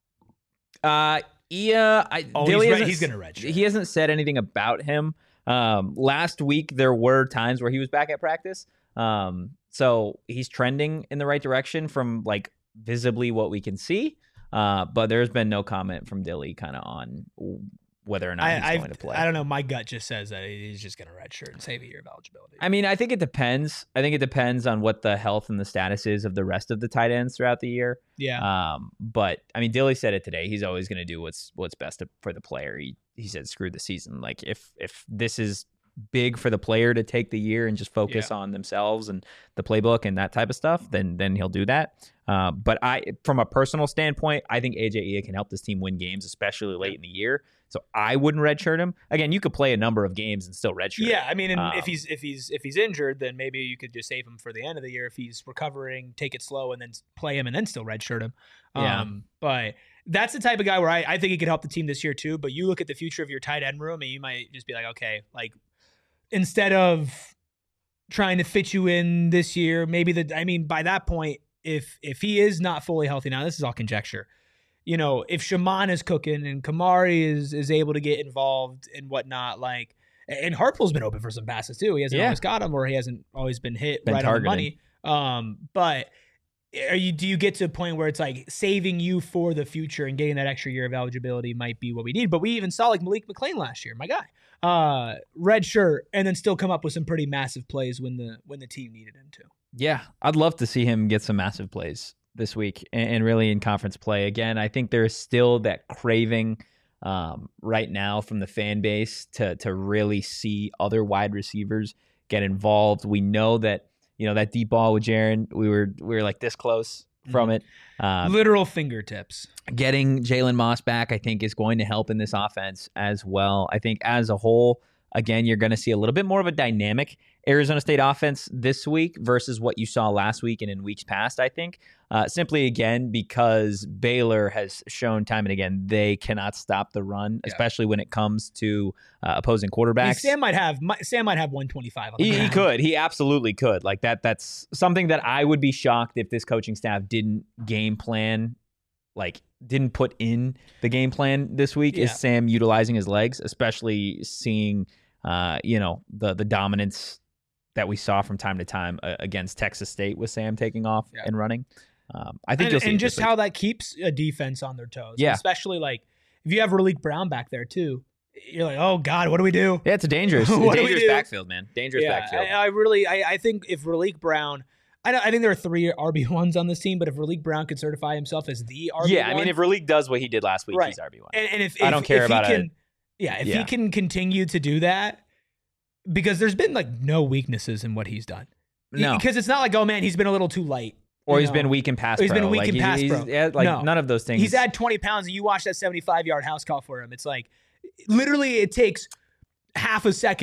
uh, Ia? I, Oh, Dilly he's, re- hasn't he's s- gonna redshirt. He hasn't said anything about him. Um, last week there were times where he was back at practice. Um, so he's trending in the right direction from like visibly what we can see. Uh, but there's been no comment from Dilly kind of on whether or not I, he's I, going to play. I don't know. My gut just says that he's just going to redshirt and save a year of eligibility. I mean, I think it depends. I think it depends on what the health and the status is of the rest of the tight ends throughout the year. yeah. Um, but I mean, Dilly said it today. He's always going to do what's what's best to, for the player. He he said, "Screw the season. Like if if this is big for the player to take the year and just focus Yeah. on themselves and the playbook and that type of stuff, then then he'll do that." Uh, but I, from a personal standpoint, I think A J Ia can help this team win games, especially late in the year. So I wouldn't redshirt him. Again, you could play a number of games and still redshirt. Yeah, I mean, and Um, if he's if he's if he's injured, then maybe you could just save him for the end of the year. If he's recovering, take it slow, and then play him, and then still redshirt him. Yeah. Um, but that's the type of guy where I, I think he could help the team this year too. But you look at the future of your tight end room, and you might just be like, okay, like instead of trying to fit you in this year, maybe the I mean, by that point, if if he is not fully healthy now, this is all conjecture. You know, if Shaman is cooking and Kamari is is able to get involved and whatnot, like, and Hartpool's been open for some passes too. He hasn't Yeah. always got them, or he hasn't always been hit Been right targeted. on the money. Um, but are you do you get to a point where it's like saving you for the future and getting that extra year of eligibility might be what we need? But we even saw like Malik McClain last year, my guy, uh, red shirt, and then still come up with some pretty massive plays when the when the team needed him to. Yeah, I'd love to see him get some massive plays this week and, and really in conference play. Again, I think there's still that craving um, right now from the fan base to to really see other wide receivers get involved. We know that, you know, that deep ball with Jaron, we were we were like this close from it. Um, Literal fingertips. getting Jalen Moss back, I think, is going to help in this offense as well. I think as a whole, again, you're going to see a little bit more of a dynamic Arizona State offense this week versus what you saw last week and in weeks past, I think. Uh, simply, again, because Baylor has shown time and again they cannot stop the run, Yeah. especially when it comes to uh, opposing I mean, quarterbacks. Sam might have mi- Sam might have one twenty-five on the He, he ground. could. He absolutely could. Like that. That's something that I would be shocked if this coaching staff didn't game plan, like didn't put in the game plan this week. Yeah. Is Sam utilizing his legs, especially seeing, uh, you know, the the dominance that we saw from time to time uh, against Texas State with Sam taking off Yeah. and running. Um, I think and, you'll see and it just this week. how that keeps a defense on their toes. Yeah. Especially like if you have Raleek Brown back there too, you're like, oh God, what do we do? Yeah, it's a dangerous, What do we dangerous do? backfield, man. Dangerous Yeah, backfield. I, I really, I, I think if Raleek Brown, I, don't, I think there are three R B ones on this team, but if Raleek Brown could certify himself as the R B one, yeah, I mean, if Raleek does what he did last week, Right. he's R B one. and, and if, I if- don't care if about he a- can, yeah, if yeah. he can continue to do that, because there's been like no weaknesses in what he's done. No. Because it's not like, oh man, he's been a little too light. Or you he's know? been weak in pass Or he's pro. been weak like, in he- pass he's, pro. yeah, like No. none of those things. He's had twenty pounds, and you watch that seventy-five yard house call for him. It's like, literally, it takes half a second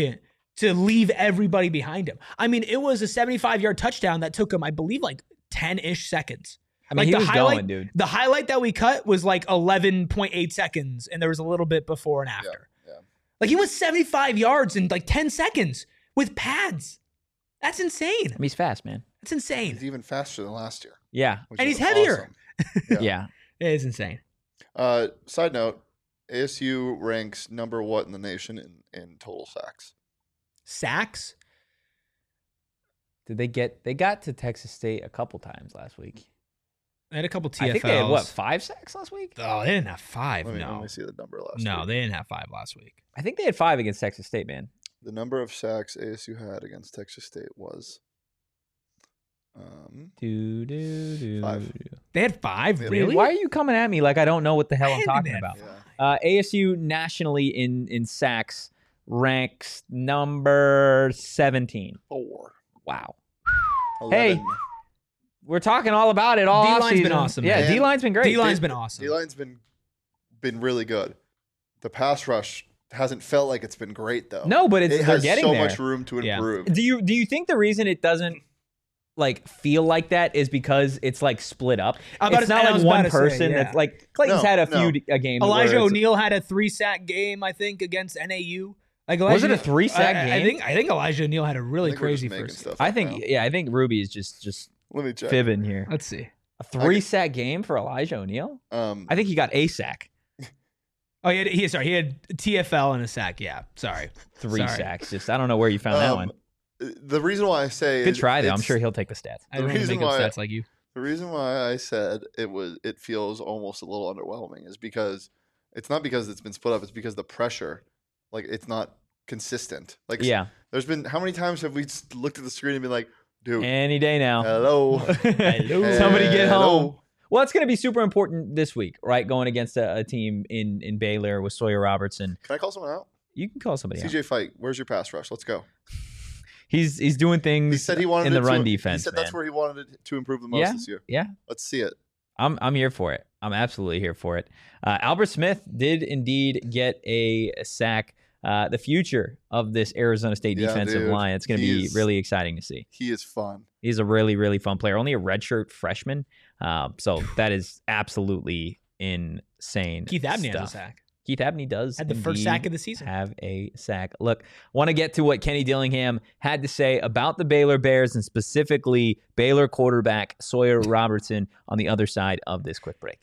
to leave everybody behind him. I mean, it was a seventy-five-yard touchdown that took him, I believe, like ten-ish seconds. I mean, like he the was highlight, going, dude. The highlight that we cut was like eleven point eight seconds, and there was a little bit before and after. Yeah, yeah. Like he was seventy-five yards in like ten seconds with pads. That's insane. I mean, he's fast, man. That's insane. He's even faster than last year. Yeah. which And is he's heavier. awesome. Yeah. Yeah. It is insane. Uh, side note, A S U ranks number what in the nation in, in total sacks? Sacks? Did they get, they got to Texas State a couple times last week. They had a couple T F Ls. I think they had, what, five sacks last week? Oh, they didn't have five. Let me, no. let me see the number last No, week. they didn't have five last week. I think they had five against Texas State, man. The number of sacks A S U had against Texas State was um, Do, do, do, Five. do. They had five? Yeah. Dude, Really? why are you coming at me like I don't know what the hell I I'm didn't think talking they had about? five. yeah. Uh, A S U nationally in, in sacks ranks number seventeen. four. Wow. eleven. Hey. We're talking all about it all D-line's offseason. been awesome, Yeah, man. D-line's been great. D-line's been awesome. D-line's been been really good. The pass rush hasn't felt like it's been great though. No, but it's it they're has getting so there. much room to Yeah. improve. Do you do you think the reason it doesn't like feel like that is because it's like split up? I was about It's to- not I was like about one to say, person yeah. that's like Clayton's No, had a no. few a games. Elijah where it's- O'Neal had a three-sack game, I think, against N A U. Like Was Elijah, it a three-sack I, I game? think I think Elijah O'Neal had a really I think we're just crazy making first. stuff I up think now. yeah, I think Ruby is just just Let me check. fibbing here. Let's see. A three sack game for Elijah O'Neal? Um, I think he got a sack. Oh, he had, he sorry, he had T F L and a sack. Yeah, sorry. Three Sorry. sacks. Just I don't know where you found that um, one. The reason why I say Good it- try though. I'm it's- sure he'll take the stats. I The don't want to reason make up why- stats like you. The reason why I said it was it feels almost a little underwhelming is because it's not because it's been split up. It's because the pressure, like it's not consistent. Like Yeah. there's been how many times have we s- looked at the screen and been like, dude, Any day now. hello, Hello. Somebody get Hello. home. Well, it's going to be super important this week, right? Going against a, a team in, in Baylor with Sawyer Robertson. Can I call someone out? You can call somebody C out. J Fight, where's your pass rush? Let's go. He's he's doing things He said he wanted in the it run to, defense. He said man. that's where he wanted it to improve the most Yeah. this year. Yeah. Let's see it. I'm I'm here for it. I'm absolutely here for it. Uh, Albert Smith did indeed get a sack. Uh, the future of this Arizona State Yeah, defensive dude. line. It's going to He be is- really exciting to see. He is fun. He's a really, really fun player. Only a redshirt freshman. Um, so that is absolutely insane. Keith Abney stuff. has a sack. Keith Abney does Had the first indeed sack of the season. have a sack. Look, want to get to what Kenny Dillingham had to say about the Baylor Bears and specifically Baylor quarterback Sawyer Robertson on the other side of this quick break.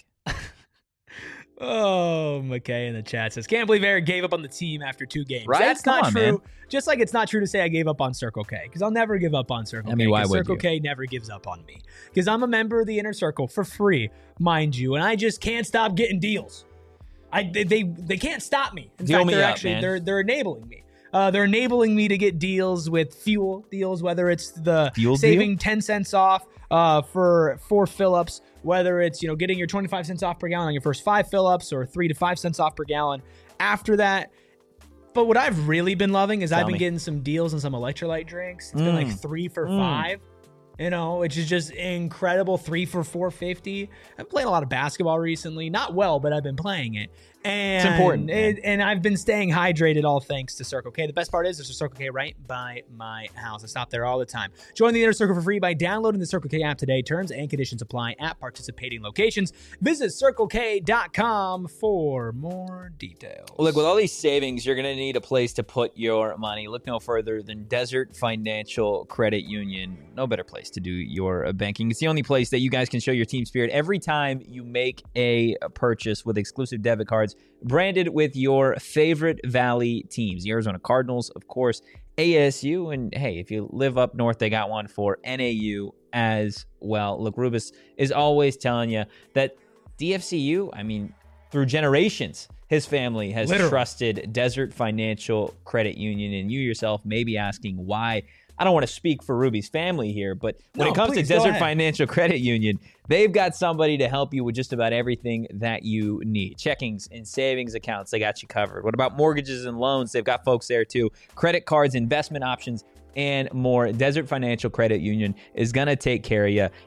Oh, McKay in the chat says, can't believe Eric gave up on the team after two games. Right? That's Come not on, true. man. Just like it's not true to say I gave up on Circle K, because I'll never give up on Circle I mean, K. why 'cause would Circle you? K never gives up on me. Because I'm a member of the Inner Circle for free, mind you, and I just can't stop getting deals. I they they, they can't stop me. In Deal fact, me they're up, actually man. they're they're enabling me. Uh, they're enabling me to get deals with fuel deals, whether it's the Fuel deal? saving ten cents off uh, for four fill-ups, whether it's you know getting your twenty-five cents off per gallon on your first five fill-ups or three to five cents off per gallon after that. But what I've really been loving is Tell I've been me. getting some deals on some electrolyte drinks. It's been Mm. like three for Mm. five. You know, which is just incredible. Three for four fifty. I've played a lot of basketball recently, not well, but I've been playing it, and important, man. It, and I've been staying hydrated, all thanks to Circle K. The best part is there's a Circle K right by my house. I stop there all the time. Join the Inner Circle for free by downloading the Circle K app today. Terms and conditions apply at participating locations. Visit circle k dot com for more details. Look, with all these savings, you're going to need a place to put your money. Look no further than Desert Financial Credit Union. No better place to do your uh, banking. It's the only place that you guys can show your team spirit every time you make a purchase with exclusive debit cards branded with your favorite Valley teams. The Arizona Cardinals, of course, A S U, and hey, if you live up north, they got one for N A U as well. Look, Rubus is always telling you that D F C U, I mean, through generations, his family has Literally. trusted Desert Financial Credit Union, and you yourself may be asking why. I don't want to speak for Ruby's family here, but when No, it comes please, to go Desert ahead. Financial Credit Union, they've got somebody to help you with just about everything that you need. Checkings and savings accounts, they got you covered. What about mortgages and loans? They've got folks there too. Credit cards, investment options, and more. Desert Financial Credit Union is going to take care of you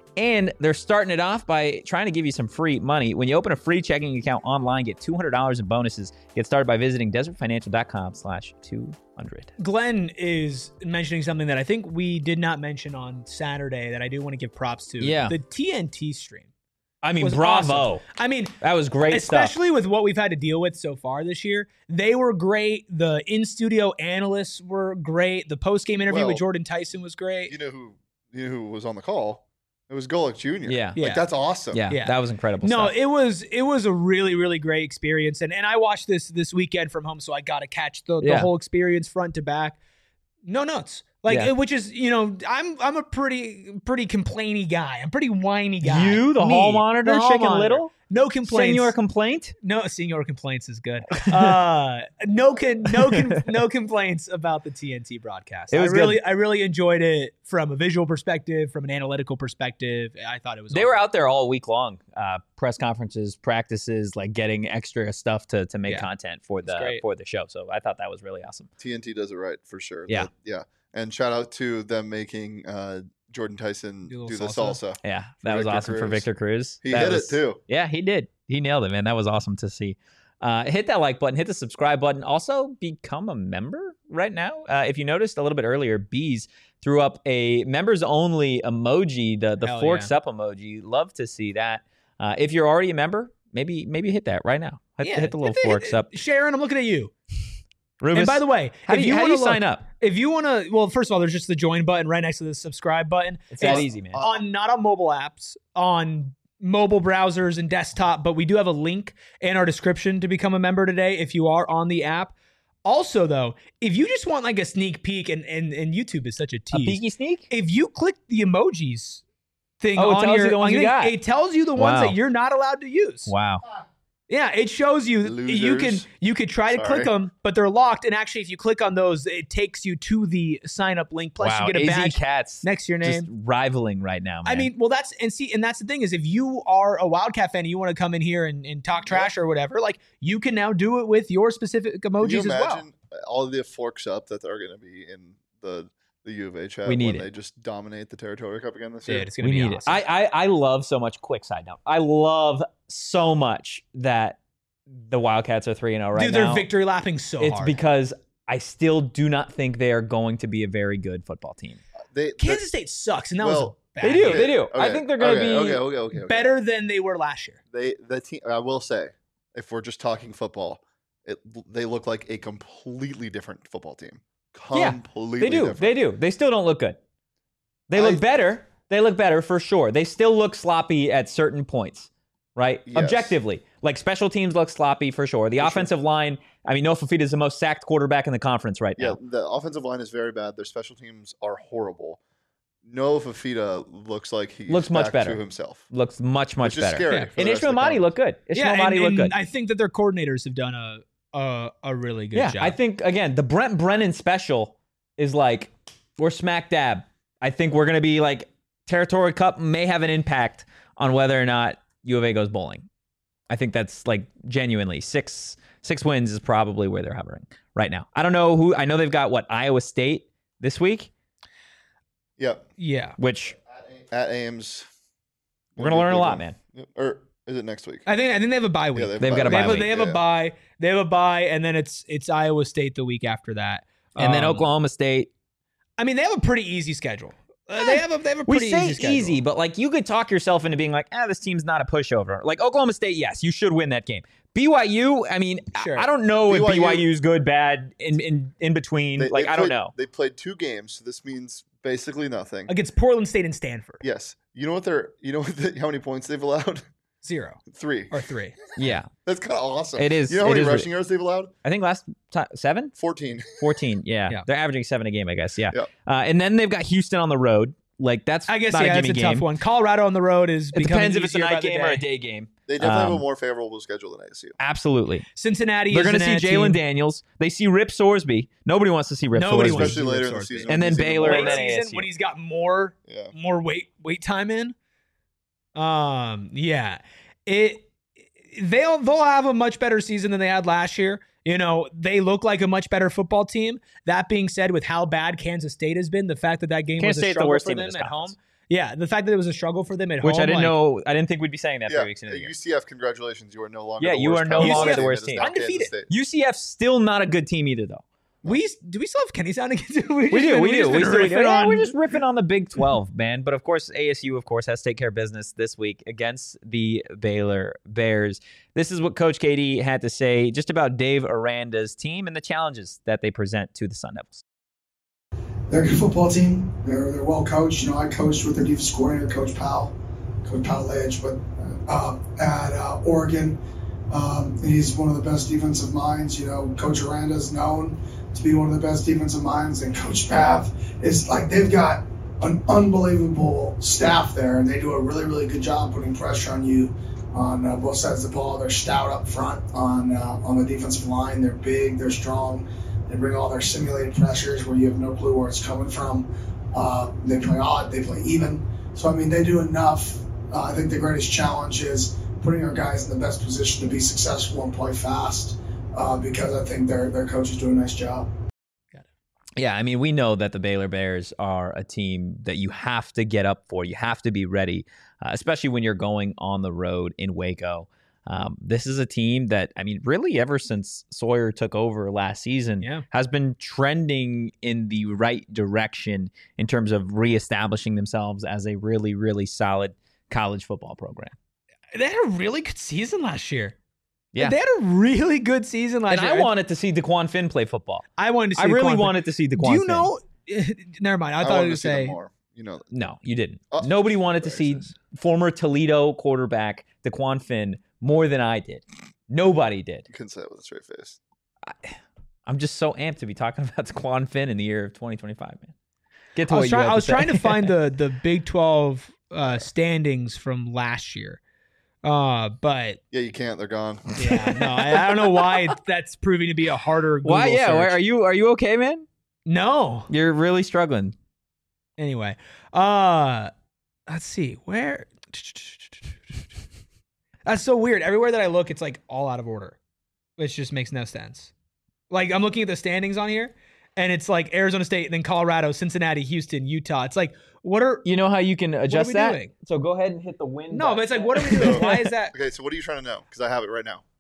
And they're starting it off by trying to give you some free money. When you open a free checking account online, get two hundred dollars in bonuses. Get started by visiting desertfinancial.com slash 200. Glenn is mentioning something that I think we did not mention on Saturday that I do want to give props to. Yeah. The T N T stream. I mean, was bravo. awesome. I mean, that was great especially stuff. with what we've had to deal with so far this year. They were great. The in-studio analysts were great. The post-game interview Well, with Jordan Tyson was great. You know who you know who was on the call? It was Golick Junior Yeah. Yeah. Like, that's awesome. Yeah, Yeah. that was incredible No, stuff. it was it was a really really great experience, and and I watched this this weekend from home, so I got to catch the, the Yeah. whole experience front to back. No notes, like Yeah. it- which is you know I'm I'm a pretty pretty complainy guy. I'm pretty whiny guy. You, the Me, hall monitor, the hall Chicken monitor. Little? No complaints. Senior complaint? no senior complaints is good. Uh, no con, no con, no complaints about the T N T broadcast. It was I really good. I really enjoyed it from a visual perspective, from an analytical perspective. I thought it was. They all were good. out there all week long, uh, press conferences, practices, like getting extra stuff to to make Yeah. content for the great. for the show. So I thought that was really awesome. T N T does it right for sure. Yeah. That- yeah. And shout out to them making uh, Jordan Tyson Do a do, little the salsa. salsa. Yeah, that was Victor awesome for Cruz. Victor Cruz. He That hit was- it too. Yeah, he did. He nailed it, man. That was awesome to see. Uh, hit that like button, hit the subscribe button. Also, become a member right now. Uh, if you noticed a little bit earlier, Bees threw up a members only emoji, the the Hell forks yeah. up emoji. Love to see that. Uh, if you're already a member, maybe maybe hit that right now. Hit, Yeah, hit the little hit forks up. Sharon, I'm looking at you. Rubus, And by the way, how if do you, how do wanna you sign look- up? If you want to, well, first of all, there's just the join button right next to the subscribe button. It's that easy, man. On not on mobile apps, on mobile browsers and desktop, but we do have a link in our description to become a member today if you are on the app. Also, though, if you just want like a sneak peek, and and, and YouTube is such a A tease. peeky sneak? If you click the emojis thing Oh, it on tells you your, the ones on you your- got. it tells you the ones Wow. that you're not allowed to use. Wow. Yeah, it shows you you can Losers. you could try to Sorry. click them, but they're locked. And actually, if you click on those, it takes you to the sign up link. Plus, wow. you get a A Z badge Cats next to your just name. rivaling right now, man. I mean, well, that's and see, and that's the thing is, if you are a Wildcat fan and you want to come in here and, and talk trash or whatever, like you can now do it with your specific Can emojis you as well. imagine all of the forks up that are going to be in the the U of A chat We need when it. they just dominate the Territory Cup again this Dude, year? it's gonna we be need awesome. it. I, I I love so much. Quick side note. I love so much that the Wildcats are three and zero right Dude, now. they're victory lapping so It's hard. because I still do not think they are going to be a very good football team. They, Kansas State sucks, and that Well, was a They bad do. game. They do. I Okay, think they're going to okay, be okay, okay, okay, okay. better than they were last year. They the team. I will say, if we're just talking football, it they look like a completely different football team. Yeah, Completely They do. different. They do. They still don't look good. They look I- better. They look better for sure. They still look sloppy at certain points, right? Yes. Objectively. Like special teams look sloppy for sure. The For sure. offensive line, I mean, Noah Fafita is the most sacked quarterback in the conference right Yeah, now. the offensive line is very bad. Their special teams are horrible. Noah Fafita looks like he Looks much better. to himself. Looks much, much Which is better. scary Yeah. for the And rest Ishmael of the Mahdi conference. looked good. Ishmael yeah, Mahdi and, looked and good. I think that their coordinators have done a a, a really good yeah, job. I think, again, the Brent Brennan special is like, we're smack dab. I think we're going to be like, Territory Cup may have an impact on whether or not U of A goes bowling. I think that's like genuinely six six wins is probably where they're hovering right now. I don't know who. I know they've got what Iowa State this week, Yep. yeah. which At Ames. we're gonna learn a lot, man. Or is it next week? I think I think they have a bye week. Yeah, They've got a they bye have, a, week. they have Yeah. a bye. They have a bye, and then it's it's Iowa State the week after that, And then Um, Oklahoma State. I mean, they have a pretty easy schedule. Uh, they have a they have a We pretty say easy schedule. easy, but like you could talk yourself into being like, ah, this team's not a pushover. Like Oklahoma State, yes, you should win that game. B Y U, I mean, I- Sure. I don't know if B Y U B Y U is good, bad, in in, in between. They- like they I don't played- know. They played two games, so this means basically nothing. against Portland State and Stanford. Yes. You know what they're you know what the, how many points they've allowed? Zero Three. or three. Yeah, That's kind of awesome. It is- You know how it many is re- rushing yards they've allowed? I think last time seven. Fourteen. fourteen, yeah. Yeah. They're averaging seven a game, I guess. Yeah. Yeah. Uh, and then they've got Houston on the road. Like that's I guess not yeah, a that's gimme a game. tough one. Colorado on the road is It becoming depends if it's a easier by night the game or a day. day game. They definitely have Um, a more favorable schedule than A S U. Absolutely. Cincinnati. They're is going to an see ad Jalen team. Daniels. They see Rip Sorsby. Nobody wants to see Rip Nobody Sorsby. wants to Especially see later Rip in the Sorsby. season. And when then he's even Baylor more- and Late then season A S U. when he's got more Yeah. more weight weight time in. Um, yeah, it they'll they'll have a much better season than they had last year. You know, they look like a much better football team. That being said, with how bad Kansas State has been, the fact that that game Kansas was a State's the struggle worst for team in them this at home, conference. Yeah, the fact that it was a struggle for them at Which home. I didn't like, know. I didn't think we'd be saying that Yeah, three weeks into the uh, year. U C F, congratulations. You are no longer Yeah, the you worst are no Power longer Five the team. worst It is team. now Kansas Undefeated. State. U C F's still not a good team either, though. We do we still have Kenny Sound against we, We just do, been- we do. just We been still, riffing yeah, on- we're just riffing on the Big twelve, man. But of course, A S U, of course, has to take care of business this week against the Baylor Bears. This is what Coach K D had to say just about Dave Aranda's team and the challenges that they present to the Sun Devils. They're a good football team. They're they're well coached. You know, I coached with their defensive coordinator, Coach Powell, Coach Powell Edge, but uh, at uh, Oregon, um, he's one of the best defensive minds. You know, Coach Aranda is known to be one of the best defensive minds, and Coach Pav is like they've got an unbelievable staff there, and they do a really really good job putting pressure on you on uh, both sides of the ball. They're stout up front on uh, on the defensive line. They're big. They're strong. They bring all their simulated pressures where you have no clue where it's coming from. Uh, they play odd, they play even. So, I mean, they do enough. Uh, I think the greatest challenge is putting our guys in the best position to be successful and play fast uh, because I think their, their coaches do a nice job. Yeah, I mean, we know that the Baylor Bears are a team that you have to get up for. You have to be ready, uh, especially when you're going on the road in Waco. Um, this is a team that, I mean, really ever since Sawyer took over last season, Yeah. has been trending in the right direction in terms of reestablishing themselves as a really, really solid college football program. They had a really good season last year. Yeah. They had a really good season last And year. I wanted to see DeQuan Finn play football. I wanted to see I really Quan- wanted to see DeQuan Do you Finn. know? Never mind. I I thought I wanted was to going see to them say. more. You know, that. No, you didn't. Oh, Nobody wanted to see racist. former Toledo quarterback DeQuan Finn more than I did. Nobody did. You couldn't say it with a straight face. I'm just so amped to be talking about DeQuan Finn in the year of twenty twenty-five, man. Get to I what was, you try- had I was say. trying to find the the Big twelve uh, standings from last year, uh, but Yeah, you can't. They're gone. yeah, no, I, I don't know why that's proving to be a harder. Google Why? Yeah. Why, search. are you Are you okay, man? No. You're really struggling. Anyway, uh, let's see where. That's so weird. Everywhere that I look, it's like all out of order, which just makes no sense. Like I'm looking at the standings on here, and it's like Arizona State, then Colorado, Cincinnati, Houston, Utah. It's like, what are You know how you can adjust we that? doing? So go ahead and hit the win. no? But it's like, what are we So- doing? Why is that? Okay, so what are you trying to know? Because I have it right now.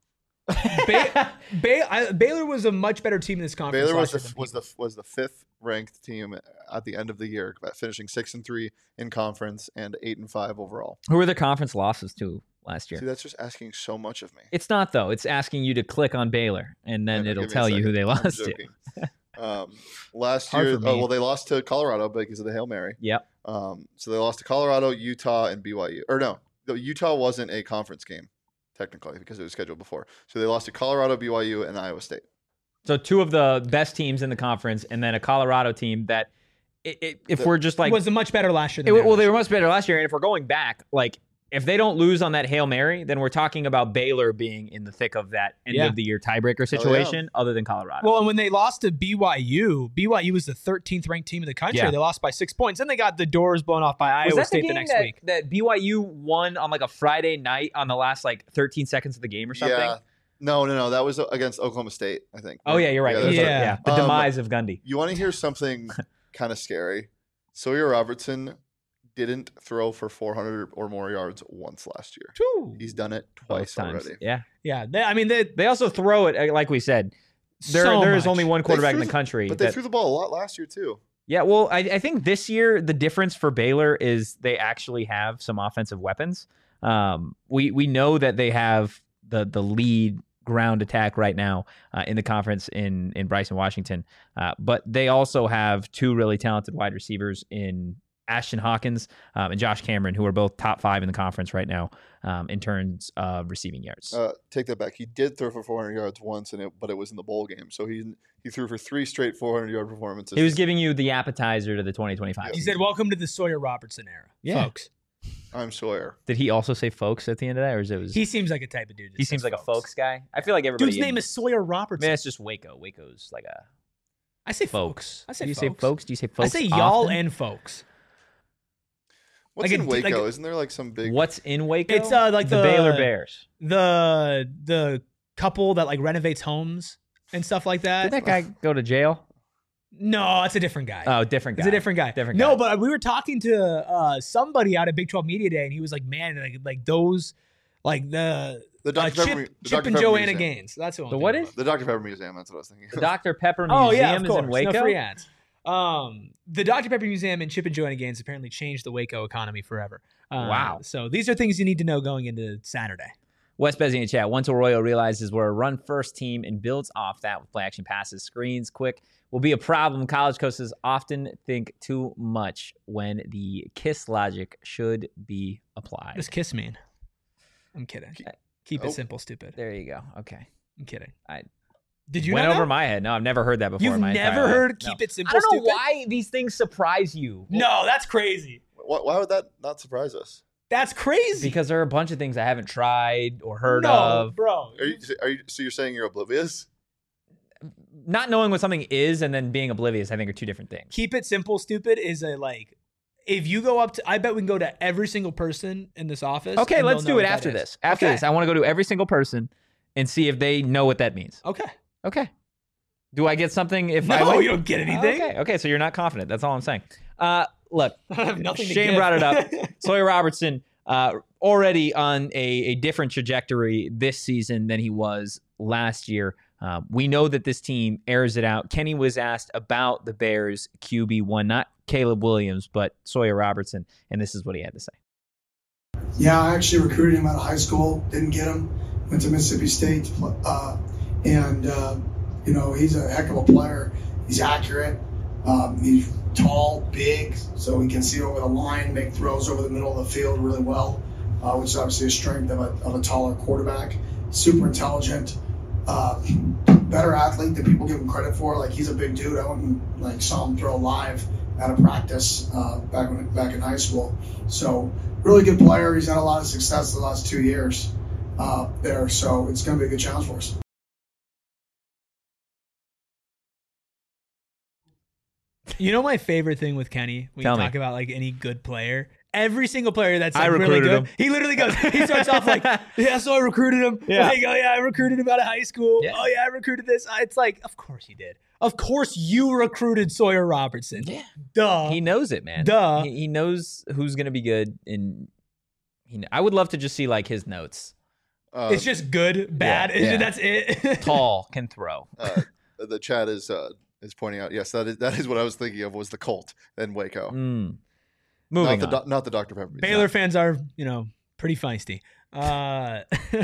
Ba- ba- I, Baylor was a much better team in this conference. Baylor was last the year than was the people. was the fifth ranked team at the end of the year, finishing six and three in conference and eight and five overall. Who were the conference losses to last year? See, that's just asking so much of me. It's not though. It's asking you to click on Baylor, and then Yeah, it'll give me a tell you who second. they I'm lost to. joking. um, last Hard year, for oh, me. well, they lost to Colorado because of the Hail Mary. Yep. Um, so they lost to Colorado, Utah, and B Y U. Or no, the Utah wasn't a conference game technically because it was scheduled before. So they lost to Colorado, B Y U, and Iowa State. So two of the best teams in the conference, and then a Colorado team that, it, it, if The- we're just like, was much better last year. it, Than well, they average. were much better last year. And if we're going back, like if they don't lose on that Hail Mary, then we're talking about Baylor being in the thick of that end Yeah. of the year tiebreaker yeah. situation, other than Colorado. Well, and when they lost to B Y U, B Y U was the thirteenth ranked team in the country. Yeah. They lost by six points. Then they got the doors blown off by was Iowa that State the the, game next that, week. that B Y U won on like a Friday night on the last like thirteen seconds of the game or something? Yeah. No, no, no. That was against Oklahoma State, I think. Oh yeah, you're right. Yeah, There's that's a- Yeah. yeah. The Um, demise of Gundy. You want to hear something kind of scary? Sawyer Robertson didn't throw for four hundred or more yards once last year. Whew. He's done it Both twice times. already. Yeah. Yeah, they, I mean, they, They also throw it uh, like we said. There, so there is much. only one They quarterback threw in the the- country. But they that- threw the ball a lot last year too. Yeah, well, I, I think this year the difference for Baylor is they actually have some offensive weapons. Um, we we know that they have the the lead ground attack right now uh, in the conference in in Bryson Washington, uh, but they also have two really talented wide receivers in Ashton Hawkins um, and Josh Cameron, who are both top five in the conference right now um, in terms of receiving yards. Uh, take that back. He did throw for four hundred yards once, and it, but it was in the bowl game. So he he threw for three straight four hundred yard performances. he was giving you the appetizer to the twenty twenty-five. he said, "Welcome to the Sawyer Robertson era, Yeah. folks." I'm Sawyer. Did he also say folks at the end of that, or is it was He seems like a type of dude. that he says seems like a folks guy? I feel like everybody. Dude's in- name is Sawyer Robertson. Man, it's just Waco. Waco's like a I say folks. folks. I say Do you folks. say folks? Do you say folks? I say y'all often? and folks. What's Like in a- like Waco? a- Isn't there like some big? What's in Waco? It's, uh, like the, the- Baylor Bears. The the couple that like renovates homes and stuff like Did that. that guy go to jail? No, it's a different guy. Oh, different guy. It's a different guy. Different No, guy. but we were talking to uh, somebody out at Big twelve Media Day, and he was like, "Man, like, like those, like the, The uh, Doctor Chip, Pepper, the Chip Doctor and Pepper Joanna Museum. Gaines." That's who I'm The thinking what about. is? The Doctor Pepper Museum. That's what I was thinking. The Doctor Pepper Oh Museum yeah, of is course. in Waco. No free ads. Um, the Doctor Pepper Museum and Chip and Joanna Gaines apparently changed the Waco economy forever. Uh, Wow. So these are things you need to know going into Saturday. Wes Bezzi in chat. Once Arroyo realizes we're a run-first team and builds off that with play-action passes, screens, quick, will be a problem. College coaches often think too much when the KISS logic should be applied. What does KISS mean? I'm kidding. Keep Oh. it simple, stupid. There you go. Okay. I'm kidding. I Did you went not over know? my head. No, I've never heard that before. You've in my never entire life. heard No. keep it simple, I don't know stupid? why these things surprise you. No, that's crazy. Why, why would that not surprise us? That's crazy. Because there are a bunch of things I haven't tried or heard no, of. bro. Are you, are you? So you're saying you're oblivious? Not knowing what something is and then being oblivious, I think, are two different things. Keep it simple, stupid is a like. If you go up to, I bet we can go to every single person in this office. Okay, and let's they'll do know it what after that this. is. After Okay. this, I want to go to every single person and see if they know what that means. Okay. Okay. Do I get something if No, I win? you don't get anything. Okay. Okay. So you're not confident. That's all I'm saying. Uh, look, I have nothing to Shane give. brought it up. Sawyer Robertson uh, already on a, a different trajectory this season than he was last year. Uh, we know that this team airs it out. Kenny was asked about the Bears Q B one, not Caleb Williams, but Sawyer Robertson, and this is what he had to say. Yeah, I actually recruited him out of high school. Didn't get him. Went to Mississippi State, uh, and uh, you know he's a heck of a player. He's accurate. Um, he's tall, big, so he can see over the line, make throws over the middle of the field really well, uh, which is obviously a strength of a, of a taller quarterback. Super intelligent, uh, better athlete than people give him credit for. Like he's a big dude. I went and like saw him throw live at a practice uh, back when back in high school. So really good player. He's had a lot of success the last two years uh, there. So it's going to be a good challenge for us. You know my favorite thing with Kenny when Tell you me. talk about like any good player. Every single player that's I like really recruited good, him. he literally goes. He starts off like, "Yeah, so I recruited him. Yeah. Like, oh yeah, I recruited him out of high school. Yeah. Oh yeah, I recruited this." It's like, of course you did. Of course you recruited Sawyer Robertson. Yeah. Duh. He knows it, man. Duh. He, he knows who's going to be good. And he, I would love to just see like his notes. Uh, It's just good, bad. yeah. That's it. Tall, can throw. uh, the chat is uh, is pointing out. Yes, that is that is what I was thinking of. Was the Colt and Waco, Mm. Moving not the on. doc- not the Doctor Pepper. Baylor fans are, you know, pretty feisty. Uh,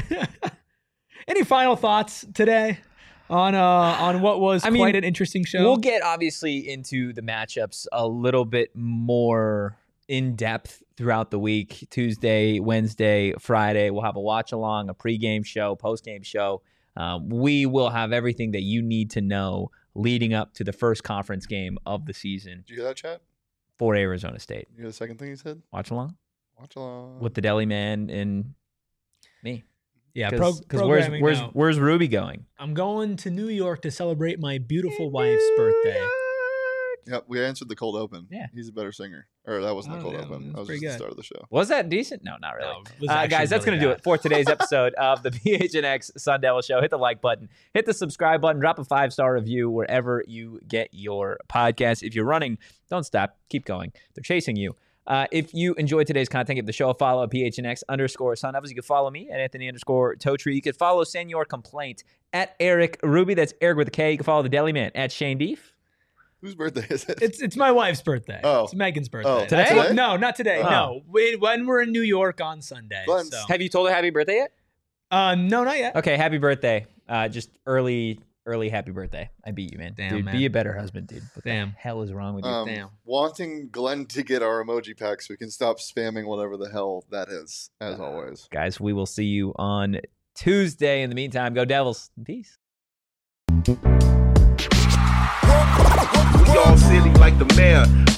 any final thoughts today on uh, on what was I mean, quite an interesting show? We'll get obviously into the matchups a little bit more in depth throughout the week. Tuesday, Wednesday, Friday, we'll have a watch along, a pregame show, postgame show. Um, we will have everything that you need to know leading up to the first conference game of the season Did you hear that chat? for Arizona State. You hear the second thing he said? Watch along Watch along. with the Deli Man and me. yeah, pro- Because where's programming where's now. where's Ruby going? I'm going to New York to celebrate my beautiful wife's birthday. Yep, we answered the cold open. Yeah. He's a better singer. Or that wasn't the Oh, cold yeah, open. that's That was pretty just the good. start of the show. Was that decent? No, not really. No, it was Uh, actually guys, that's really going to do bad. it for today's episode of the P H N X Sun Devil Show. Hit the like button, hit the subscribe button, drop a five star review wherever you get your podcast. If you're running, don't stop, keep going. They're chasing you. Uh, if you enjoyed today's content, give the show a follow at P H N X underscore Sun Devils. You can follow me at Anthony underscore Totri. You can follow Senor Complaint at Eric Ruby. That's Eric with a K. You can follow the Deli Man at Shane Deef. Whose birthday is it? It's it's my wife's birthday. Oh. It's Megan's birthday. Oh, That's today? what- no, not today. Oh. No, when, when we're in New York on Sunday. Glenn's- So. Have you told her happy birthday yet? Uh, no, not yet. Okay, happy birthday. Uh, just early, early happy birthday. I beat you, man. Damn, dude, man. be a better husband, dude. What Damn. the hell is wrong with you? Um, Damn. wanting Glenn to get our emoji pack so we can stop spamming whatever the hell that is, as always. Guys, we will see you on Tuesday. In the meantime, go Devils. Peace. We all silly like the mayor.